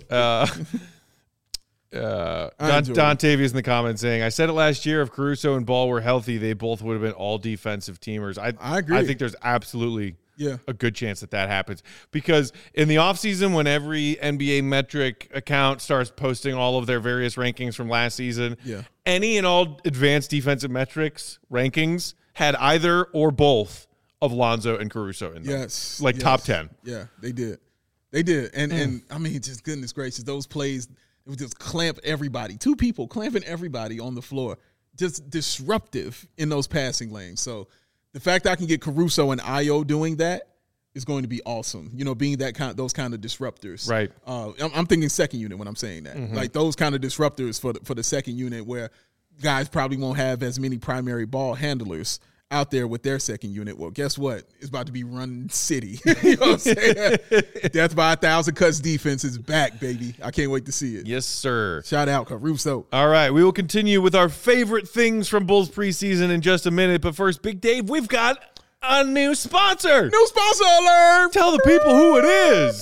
Dontavius in the comments saying, I said it last year, if Caruso and Ball were healthy, they both would have been all defensive teamers. I agree. I think there's absolutely a good chance that happens. Because in the offseason, when every NBA metric account starts posting all of their various rankings from last season, any and all advanced defensive metrics rankings had either or both of Lonzo and Caruso in them. Yes. Top 10. Yeah, they did. They did. And I mean, just goodness gracious, those plays, it would just clamp everybody. Two people clamping everybody on the floor. Just disruptive in those passing lanes. So the fact that I can get Caruso and Ayo doing that is going to be awesome. You know, being those kind of disruptors. Right. I'm thinking second unit when I'm saying that. Mm-hmm. Like those kind of disruptors for the second unit where guys probably won't have as many primary ball handlers out there with their second unit. Well, guess what? It's about to be run city. You know what I'm saying? Death by 1,000 Cuts defense is back, baby. I can't wait to see it. Yes, sir. Shout out Caruso. All right, we will continue with our favorite things from Bulls preseason in just a minute. But first, Big Dave, we've got a new sponsor. New sponsor alert. Tell the people who it is.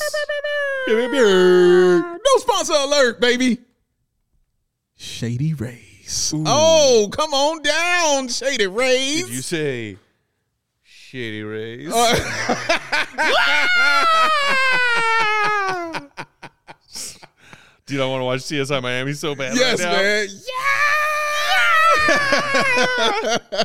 New sponsor alert, baby. Shady Rays. Ooh. Oh, come on down, Shady Rays. Did you say Shady Rays? Dude, I want to watch CSI Miami so bad right now. Man. Yeah.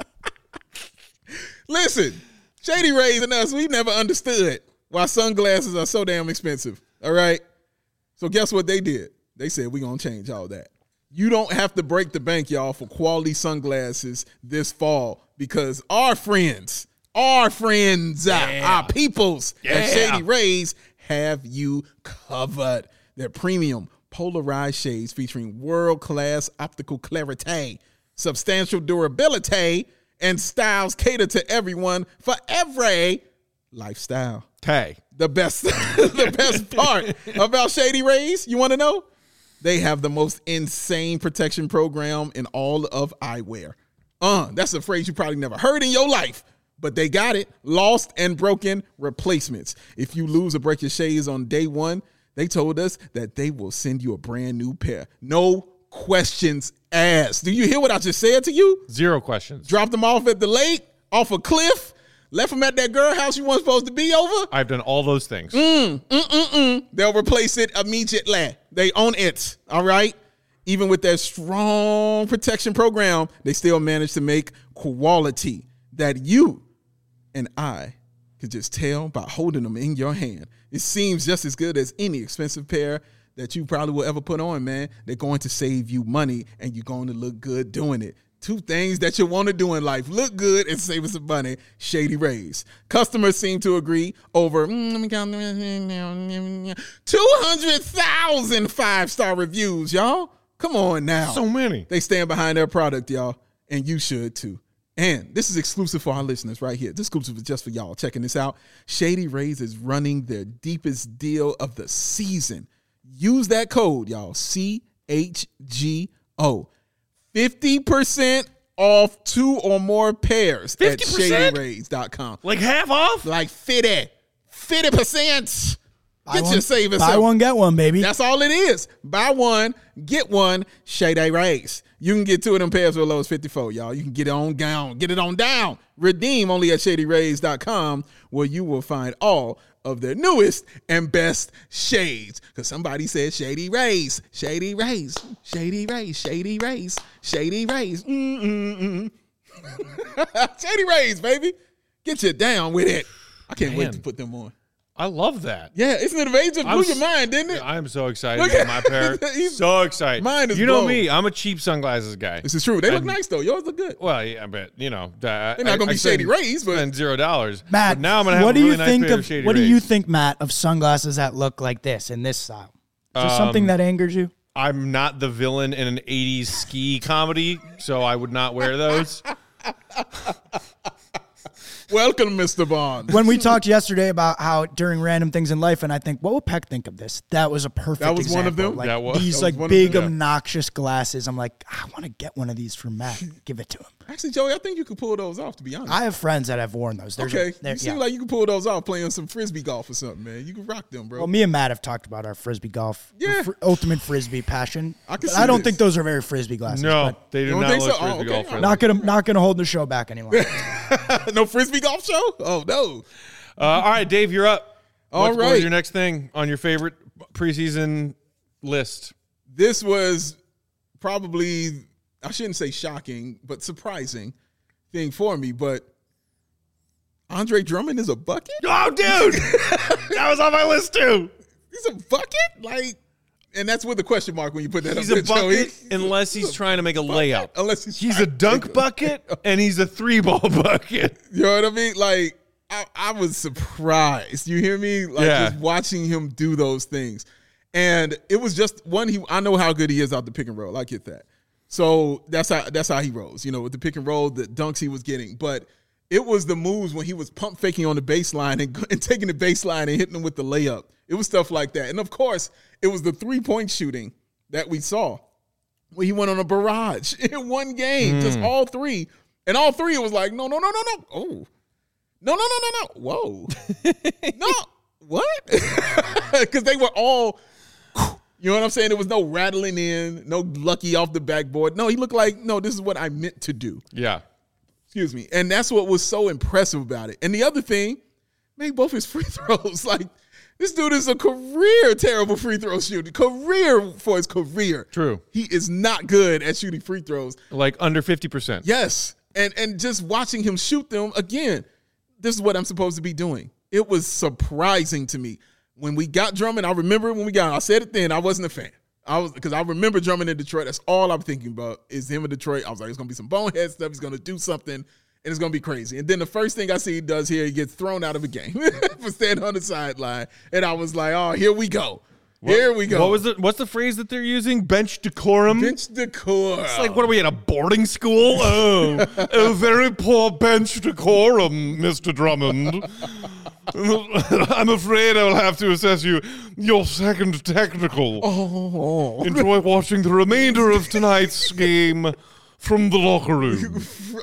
Listen, Shady Rays and us, we've never understood why sunglasses are so damn expensive. All right? So guess what they did? They said, we're going to change all that. You don't have to break the bank, y'all, for quality sunglasses this fall because our friends, our peoples at Shady Rays have you covered. They're premium polarized shades featuring world-class optical clarity, substantial durability, and styles cater to everyone for every lifestyle. Hey. The best part about Shady Rays, you want to know? They have the most insane protection program in all of eyewear. That's a phrase you probably never heard in your life, but they got it. Lost and broken replacements. If you lose or break your shades on day one, they told us that they will send you a brand new pair. No questions asked. Do you hear what I just said to you? 0 questions. Dropped them off at the lake, off a cliff, left them at that girl house you weren't supposed to be over. I've done all those things. They'll replace it immediately. They own it, all right? Even with their strong protection program, they still manage to make quality that you and I can just tell by holding them in your hand. It seems just as good as any expensive pair that you probably will ever put on, man. They're going to save you money, and you're going to look good doing it. 2 things that you want to do in life: look good and save us some money. Shady Rays. Customers seem to agree. Over 200,000 5-star reviews, y'all. Come on now. So many. They stand behind their product, y'all, and you should too. And this is exclusive for our listeners right here. This exclusive is just for y'all. Checking this out. Shady Rays is running their deepest deal of the season. Use that code, y'all. CHGO. 50% off 2 or more pairs 50%? At ShadyRays.com. Like half off? Like 50%. Get your savings. Buy one, get one, baby. That's all it is. Buy one, get one, Shady Rays. You can get 2 of them pairs for as low as $54, y'all. You can get it on down. Get it on down. Redeem only at ShadyRays.com, where you will find all of their newest and best shades. Because somebody said Shady Rays, Shady Rays, Shady Rays, Shady Rays, Shady Rays. Shady Rays, baby. Get you down with it. I can't wait to put them on. I love that. Yeah, isn't it amazing? Blew your mind, didn't it? I am so excited to get my pair. So excited. Mine is You know blown. me. I'm a cheap sunglasses guy. This is true. They look nice though. Yours look good. Well, yeah, but they're They're not gonna be Shady Rays, but spend $0. Matt, But now I'm gonna have what a do really you nice think pair of of Shady what do Rays. you think, Matt, of sunglasses that look like this in this style? Is there something that angers you? I'm not the villain in an 80s ski comedy, so I would not wear those. welcome, Mr. Bond. When we talked yesterday about how during random things in life, and I think, what would Peck think of this? That was a perfect That was one of example. them? Like That was- these that was like one of big them, yeah. obnoxious glasses. I'm like, I want to get one of these for Matt. Give it to him. Actually, Joey, I think you could pull those off. To be honest. I have friends that have worn those. There's Okay, they're- you seem like you can pull those off playing some frisbee golf or something, man. You can rock them, bro. well, me and Matt have talked about our frisbee golf, Yeah. ultimate frisbee passion. I can But see I don't this. think those are very frisbee glasses. No, but they do don't not think look so? Oh, frisbee okay. golf friendly. not gonna hold the show back anymore. No frisbee golf show? Oh no. All right, Dave, you're up. All What right. was your next thing on your favorite preseason list? This was probably, I shouldn't say shocking, but surprising thing for me. But Andre Drummond is a bucket? Oh, dude, that was on my list too. He's a bucket? Like, and that's with a question mark when you put that He's up a there, Joey. bucket unless he's trying to make a layup. Unless He's trying a to dunk make bucket and he's a 3-ball bucket. You know what I mean? Like, I was surprised. You hear me? Like, Yeah. just watching him do those things. And it was just one, I know how good he is out the pick and roll. I get that. So that's how he rolls, you know, with the pick and roll, the dunks he was getting. But it was the moves when he was pump faking on the baseline and taking the baseline and hitting them with the layup. It was stuff like that. And of course, it was the 3-point shooting that we saw where he went on a barrage in one game, just all three. And all three, it was like, no. Oh, no. Whoa. No. What? Because they were all, you know what I'm saying? There was no rattling in, no lucky off the backboard. No, he looked like, no, this is what I meant to do. Yeah. Excuse me. And that's what was so impressive about it. And the other thing, made both his free throws. Like, this dude is a career terrible free throw shooter. Career for his career. True. He is not good at shooting free throws. Like under 50%. Yes. And just watching him shoot them, again, this is what I'm supposed to be doing. It was surprising to me. When we got Drummond, I remember when we got him. I said it then, I wasn't a fan. Because I remember Drummond in Detroit. That's all I'm thinking about is him in Detroit. I was like, it's going to be some bonehead stuff. He's going to do something, and it's going to be crazy. And then the first thing I see he does here, he gets thrown out of a game for standing on the sideline. And I was like, oh, here we go. Here we go. What's the phrase that they're using? Bench decorum? Bench decor. It's like, what are we at a boarding school? Oh, very poor bench decorum, Mr. Drummond. I'm afraid I will have to assess you your second technical. Oh. Enjoy watching the remainder of tonight's game from the locker room.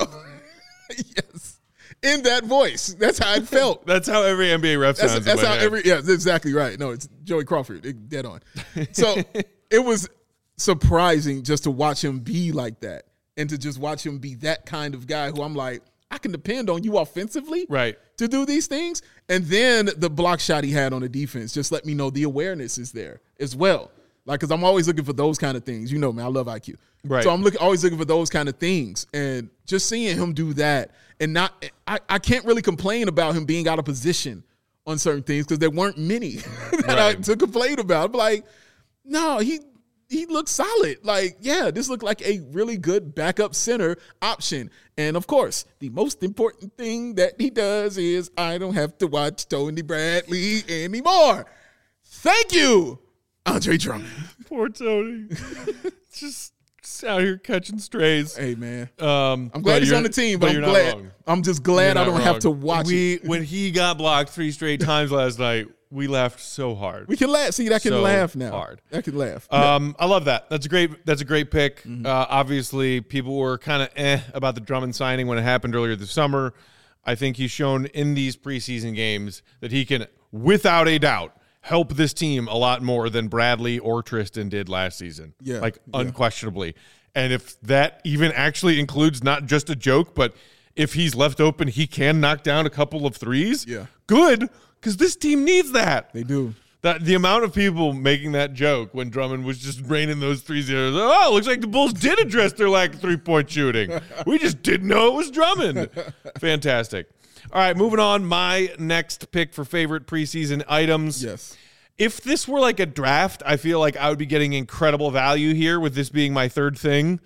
Yes. In that voice. That's how it felt. That's how every NBA ref sounds. That's in my how head. that's exactly right. No, it's Joey Crawford. Dead on. So it was surprising just to watch him be like that and to just watch him be that kind of guy who I'm like, I can depend on you offensively Right. to do these things. And then the block shot he had on the defense just let me know the awareness is there as well. Like, because I'm always looking for those kind of things. You know, man, I love IQ. Right. So I'm always looking for those kind of things. And just seeing him do that and I can't really complain about him being out of position on certain things because there weren't many that I to complain about. I'm like, no, he looked solid. Like, yeah, this looked like a really good backup center option. And, of course, the most important thing that he does is I don't have to watch Tony Bradley anymore. Thank you, Andre Drummond. Poor Tony. just out here catching strays. Hey, man. I'm I'm glad he's on the team, but I'm glad. I'm just glad I don't have to watch it. When he got blocked 3 straight times last night, we laughed so hard. We can laugh. See, that can So laugh now. hard. That can laugh. I love that. That's a great pick. Mm-hmm. Obviously, people were kind of about the Drummond signing when it happened earlier this summer. I think he's shown in these preseason games that he can, without a doubt, help this team a lot more than Bradley or Tristan did last season. Yeah, like yeah. unquestionably. And if that even actually includes not just a joke, but if he's left open, he can knock down a couple of threes. Yeah. Good, because this team needs that. They do. That the amount of people making that joke when Drummond was just raining those threes, oh, looks like the Bulls did address their lack of 3-point shooting. We just didn't know it was Drummond. Fantastic. All right, moving on. My next pick for favorite preseason items. Yes. If this were like a draft, I feel like I would be getting incredible value here with this being my third thing.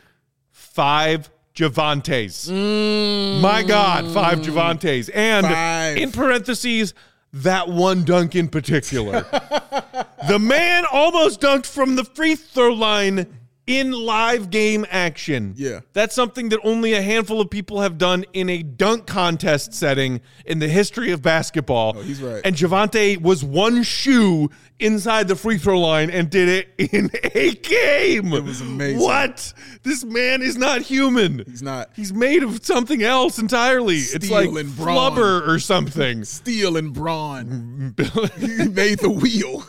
5 Javantes. My God, 5 Javantes. And 5. in parentheses, that one dunk in particular. The man almost dunked from the free throw line in live game action. Yeah. That's something that only a handful of people have done in a dunk contest setting in the history of basketball. Oh, he's right. And Javante was one shoe inside the free throw line and did it in a game. It was amazing. What? This man is not human. He's not. He's made of something else entirely. It's Steel like and brawn. flubber or something. Steel and brawn. He made the wheel.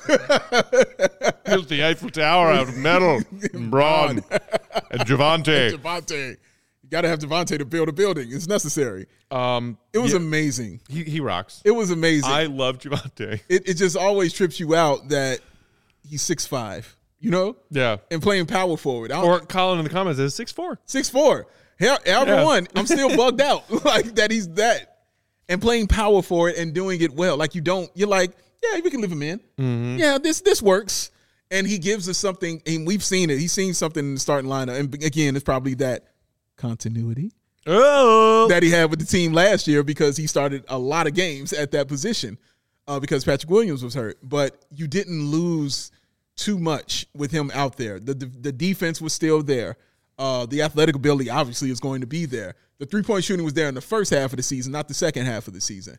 Built the Eiffel Tower out of metal and brawn. And Javante. Javante. You got to have Javante to build a building. It's necessary. It was amazing. He rocks. It was amazing. I love Javante. It just always trips you out that he's 6'5", you know? Yeah. And playing power forward. Or Colin in the comments says 6'4". 6'4". However one, I'm still bugged out like that he's that. And playing power forward and doing it well. Like you're like, yeah, we can live him in. Mm-hmm. Yeah, this works. And he gives us something, and we've seen it. He's seen something in the starting lineup. And again, it's probably that continuity that he had with the team last year because he started a lot of games at that position because Patrick Williams was hurt. But you didn't lose too much with him out there. The defense was still there. The athletic ability obviously is going to be there. The three-point shooting was there in the first half of the season, not the second half of the season.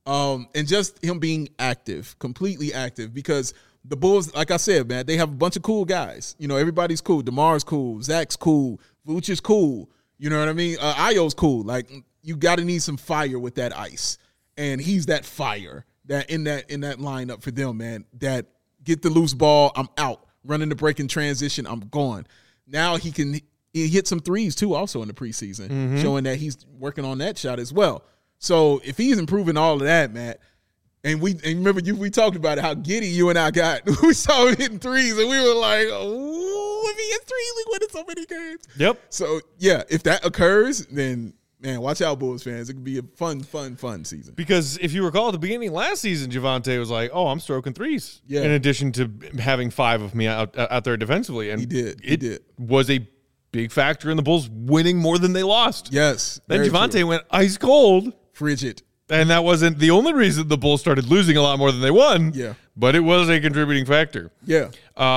And just him being active, completely active, because the Bulls, like I said, man, they have a bunch of cool guys. You know, everybody's cool. DeMar's cool. Zach's cool. Vooch is cool. You know what I mean? Ayo's cool. Like, you got to need some fire with that ice. And he's that fire that in that lineup for them, man, that get the loose ball, I'm out. Running the break in transition, I'm gone. Now he hit some threes, too, also in the preseason, showing that he's working on that shot as well. So if he's improving all of that, Matt, and remember we talked about it, how giddy you and I got. We saw him hitting threes, and we were like, oh, if he hits threes, we win in so many games. Yep. So, yeah, if that occurs, then, man, watch out, Bulls fans. It could be a fun season. Because if you recall at the beginning of last season, Javante was like, oh, I'm stroking threes. Yeah. In addition to having 5 of me out there defensively. And He did. It was a big factor in the Bulls winning more than they lost. Yes. Then very Javante true. went ice cold. Frigid. And that wasn't the only reason the Bulls started losing a lot more than they won. Yeah. But it was a contributing factor. Yeah.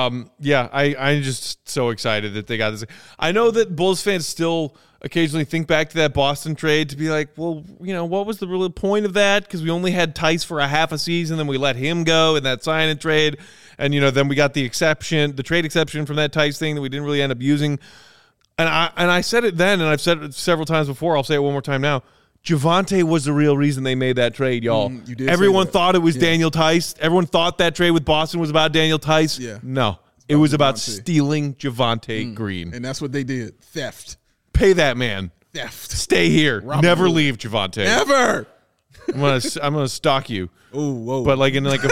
I'm just so excited that they got this. I know that Bulls fans still occasionally think back to that Boston trade to be like, well, you know, what was the real point of that? Because we only had Tice for a half a season, then we let him go in that sign and trade. And, you know, then we got the trade exception from that Tice thing that we didn't really end up using. And I said it then, and I've said it several times before. I'll say it one more time now. Javante was the real reason they made that trade, y'all. You did. Everyone thought it was Daniel Tice. Everyone thought that trade with Boston was about Daniel Tice. Yeah. No, it was about Javante. Stealing Javante Green. And that's what they did. Theft. Pay that man. Theft. Stay here. Robert Never Hood. leave, Javante. Never. I'm gonna stalk you, Oh, whoa. but like in a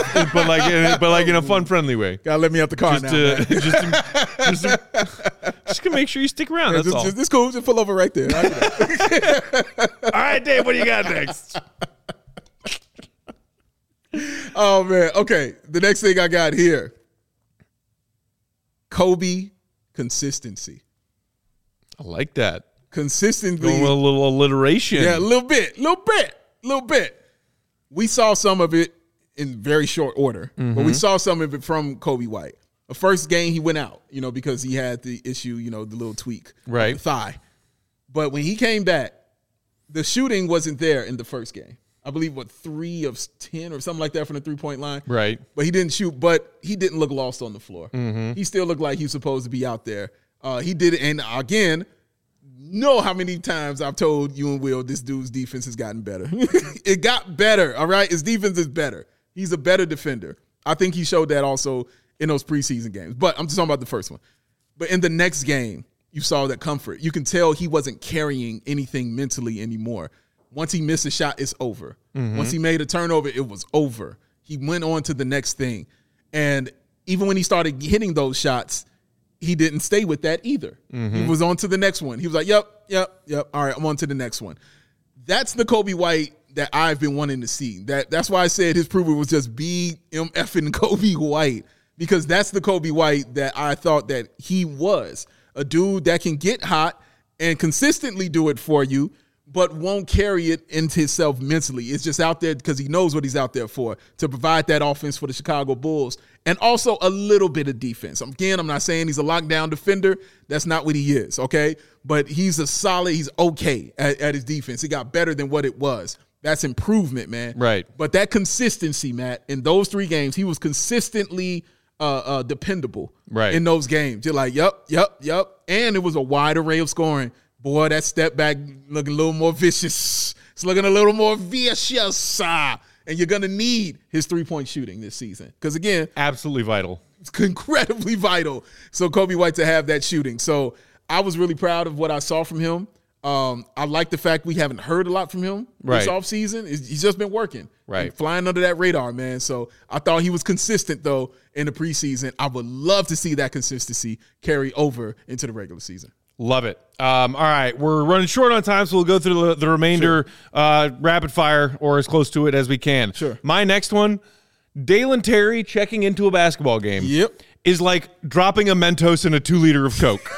fun, friendly way. Gotta let me out the car now. Man. Just to make sure you stick around. That's all. This cool. Just pull over right there. All right, Dave. What do you got next? Oh, man. Okay. The next thing I got here. Kobe consistency. I like that. Consistently. Going with a little alliteration. Yeah, a little bit. We saw some of it in very short order, but we saw some of it from Kobe White. The first game he went out, you know, because he had the issue, you know, the little tweak, Right. the thigh. But when he came back, the shooting wasn't there in the first game. I believe 3 of 10 or something like that from the 3-point line. Right. But he didn't shoot. But he didn't look lost on the floor. He still looked like he was supposed to be out there. He did it, and again. Know how many times I've told you and Will this dude's defense has gotten better. It got better, all right? His defense is better. He's a better defender. I think he showed that also in those preseason games. But I'm just talking about the first one. But in the next game, you saw that comfort. You can tell he wasn't carrying anything mentally anymore. Once he missed a shot, it's over. Once he made a turnover, it was over. He went on to the next thing. And even when he started hitting those shots, he didn't stay with that either. He was on to the next one. He was like, yep. All right, I'm on to the next one. That's the Kobe White that I've been wanting to see. That's why I said his proof was just BMFing Kobe White, because that's the Kobe White that I thought that he was. A dude that can get hot and consistently do it for you, but won't carry it into himself mentally. It's just out there because he knows what he's out there for, to provide that offense for the Chicago Bulls, and also a little bit of defense. Again, I'm not saying he's a lockdown defender. That's not what he is, okay? But he's okay at his defense. He got better than what it was. That's improvement, man. Right. But that consistency, Matt, in those 3 games, he was consistently dependable in those games. You're like, yep. And it was a wide array of scoring. Boy, that step back looking a little more vicious. It's looking a little more vicious. And you're going to need his 3-point shooting this season. Because, again, absolutely vital. It's incredibly vital. So, Kobe White to have that shooting. So, I was really proud of what I saw from him. I like the fact we haven't heard a lot from him this offseason. He's just been working. Right. Flying under that radar, man. So, I thought he was consistent, though, in the preseason. I would love to see that consistency carry over into the regular season. Love it. All right, we're running short on time, so we'll go through the remainder rapid fire, or as close to it as we can. Sure. My next one, Dalen Terry checking into a basketball game is like dropping a Mentos in a 2-liter of Coke.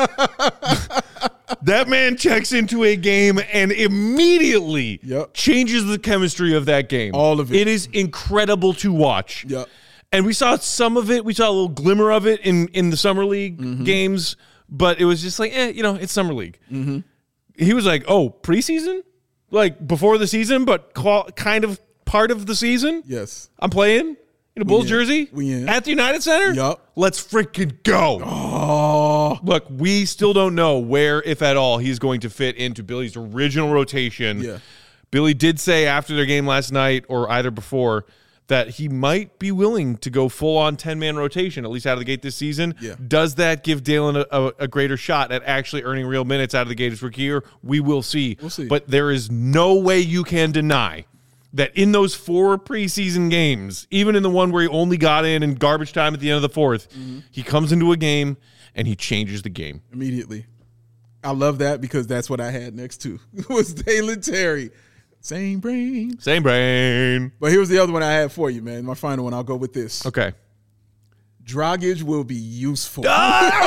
That man checks into a game and immediately changes the chemistry of that game. All of it. It is incredible to watch. Yep. And we saw some of it. We saw a little glimmer of it in the Summer League games. But it was just like, it's Summer League. Mm-hmm. He was like, oh, preseason? Like before the season, but kind of part of the season? Yes. I'm playing in a Bulls jersey We in. at the United Center? Yup. Let's freaking go. Oh. Look, we still don't know where, if at all, he's going to fit into Billy's original rotation. Yeah. Billy did say after their game last night, or either before, that he might be willing to go full-on 10-man rotation, at least out of the gate this season. Yeah. Does that give Dalen a greater shot at actually earning real minutes out of the gate his rookie year? We will see. We'll see. But there is no way you can deny that in those 4 preseason games, even in the one where he only got in garbage time at the end of the 4th, he comes into a game and he changes the game. Immediately. I love that because that's what I had next to. It was Dalen Terry. Same brain. But here's the other one I had for you, man. My final one. I'll go with this. Okay. Dragic will be useful. That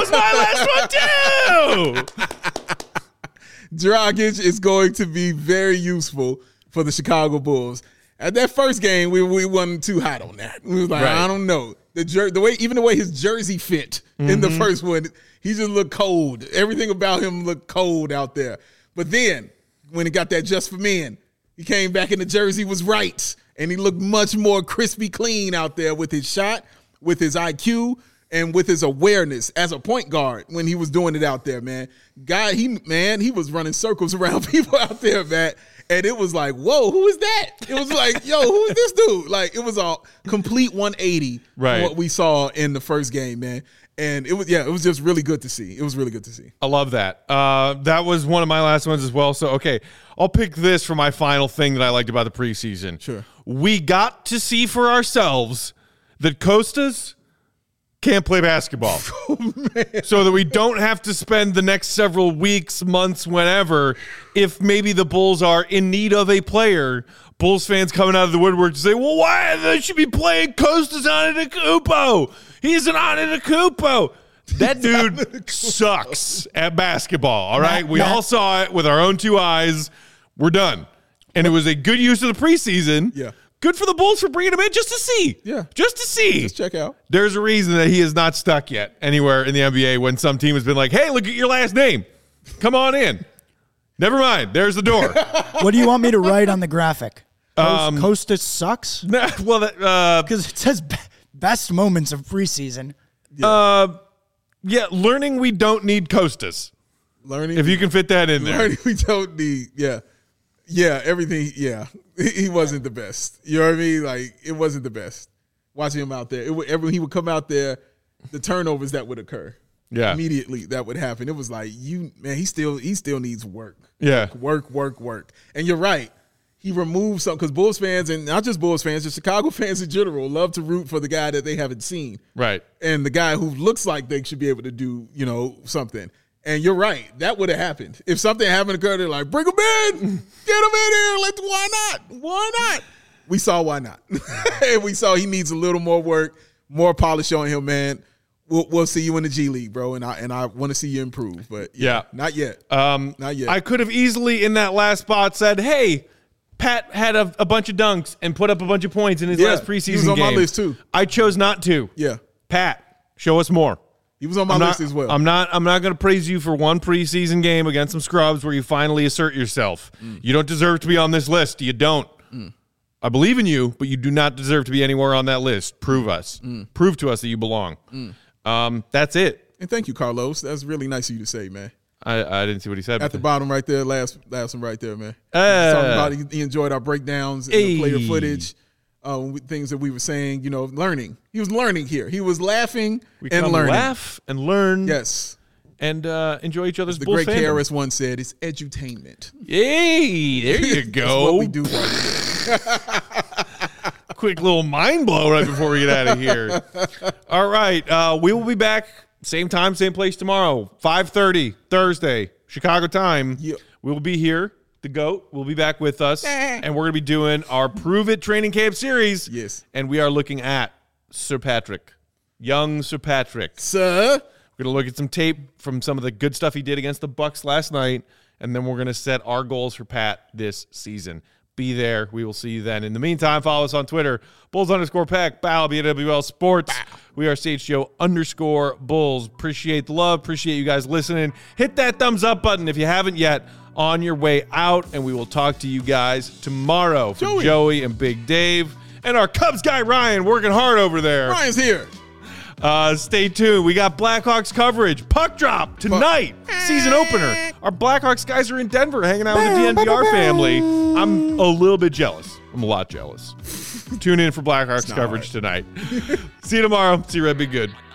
was my last one, too. Dragic is going to be very useful for the Chicago Bulls. At that first game, we wasn't too hot on that. We was like, I don't know. The way his jersey fit in the first one, he just looked cold. Everything about him looked cold out there. But then, when he got that Just for Men, he came back and the jersey was right. And he looked much more crispy clean out there with his shot, with his IQ, and with his awareness as a point guard when he was doing it out there, man. He was running circles around people out there, man. And it was like, whoa, who is that? It was like, yo, who is this dude? Like, it was a complete 180 from what we saw in the first game, man. And it was just really good to see. It was really good to see. I love that. That was one of my last ones as well. So, okay, I'll pick this for my final thing that I liked about the preseason. Sure. We got to see for ourselves that Kostas can't play basketball. So that we don't have to spend the next several weeks, months, whenever, if maybe the Bulls are in need of a player, Bulls fans coming out of the woodwork to say, well, why they should be playing Kostas Antetokounmpo? He's an Antetokounmpo. That dude sucks at basketball, all right? We all saw it with our own 2 eyes. We're done. And it was a good use of the preseason. Yeah. Good for the Bulls for bringing him in just to see. Yeah. Just to see. Just check out. There's a reason that he is not stuck yet anywhere in the NBA when some team has been like, hey, look at your last name. Come on in. Never mind. There's the door. What do you want me to write on the graphic? Kostas sucks? Well, because it says best moments of preseason. Yeah, learning we don't need Kostas. Learning. If you can fit that in there. Learning we don't need, everything, He wasn't the best. You know what I mean? Like, it wasn't the best. Watching him out there. He would come out there, the turnovers that would occur. Yeah. Immediately that would happen. It was like, he still needs work. Yeah. Work. And you're right. He removed something because Bulls fans, and not just Bulls fans, just Chicago fans in general, love to root for the guy that they haven't seen. Right. And the guy who looks like they should be able to do, something. And you're right. That would have happened. If something happened to Curry, they're like, bring him in. Get him in here. Why not? Why not? We saw why not. And we saw he needs a little more work, more polish on him, man. We'll see you in the G League, bro. And I want to see you improve. But yeah. Not yet. Not yet. I could have easily in that last spot said, hey, Pat had a bunch of dunks and put up a bunch of points in his last preseason game. He was on my list too. I chose not to. Yeah. Pat, show us more. He was on my list as well. I'm not going to praise you for one preseason game against some scrubs where you finally assert yourself. You don't deserve to be on this list. You don't. I believe in you, but you do not deserve to be anywhere on that list. Prove us. Prove to us that you belong. That's it. And thank you, Carlos. That's really nice of you to say, man. I didn't see what he said. At the bottom right there, last one right there, man. Talking about he enjoyed our breakdowns and the player footage, things that we were saying, learning. He was learning here. He was laughing and learning. Laugh and learn. Yes. And enjoy each other's the Bulls great fandom. KRS once said, it's edutainment. Hey, there you go. That's what we do right here. Quick little mind blow right before we get out of here. All right. We will be back same time, same place tomorrow, 5:30 Thursday, Chicago time. Yep. We will be here. The GOAT will be back with us, and we're going to be doing our Prove It Training Camp series. Yes. And we are looking at Sir Patrick, young Sir Patrick. Sir. We're going to look at some tape from some of the good stuff he did against the Bucks last night, and then we're going to set our goals for Pat this season. Be there. We will see you then. In the meantime, follow us on Twitter, Bulls_Pack, BAL, BWL Sports. We are CHGO_Bulls. Appreciate the love. Appreciate you guys listening. Hit that thumbs up button if you haven't yet on your way out, and we will talk to you guys tomorrow. For Joey and Big Dave and our Cubs guy, Ryan, working hard over there. Ryan's here. Stay tuned. We got Blackhawks coverage. Puck drop tonight. Season opener. Our Blackhawks guys are in Denver hanging out with the DNVR family. I'm a little bit jealous. I'm a lot jealous. Tune in for Blackhawks coverage tonight. See you tomorrow. See you, Red. Be good.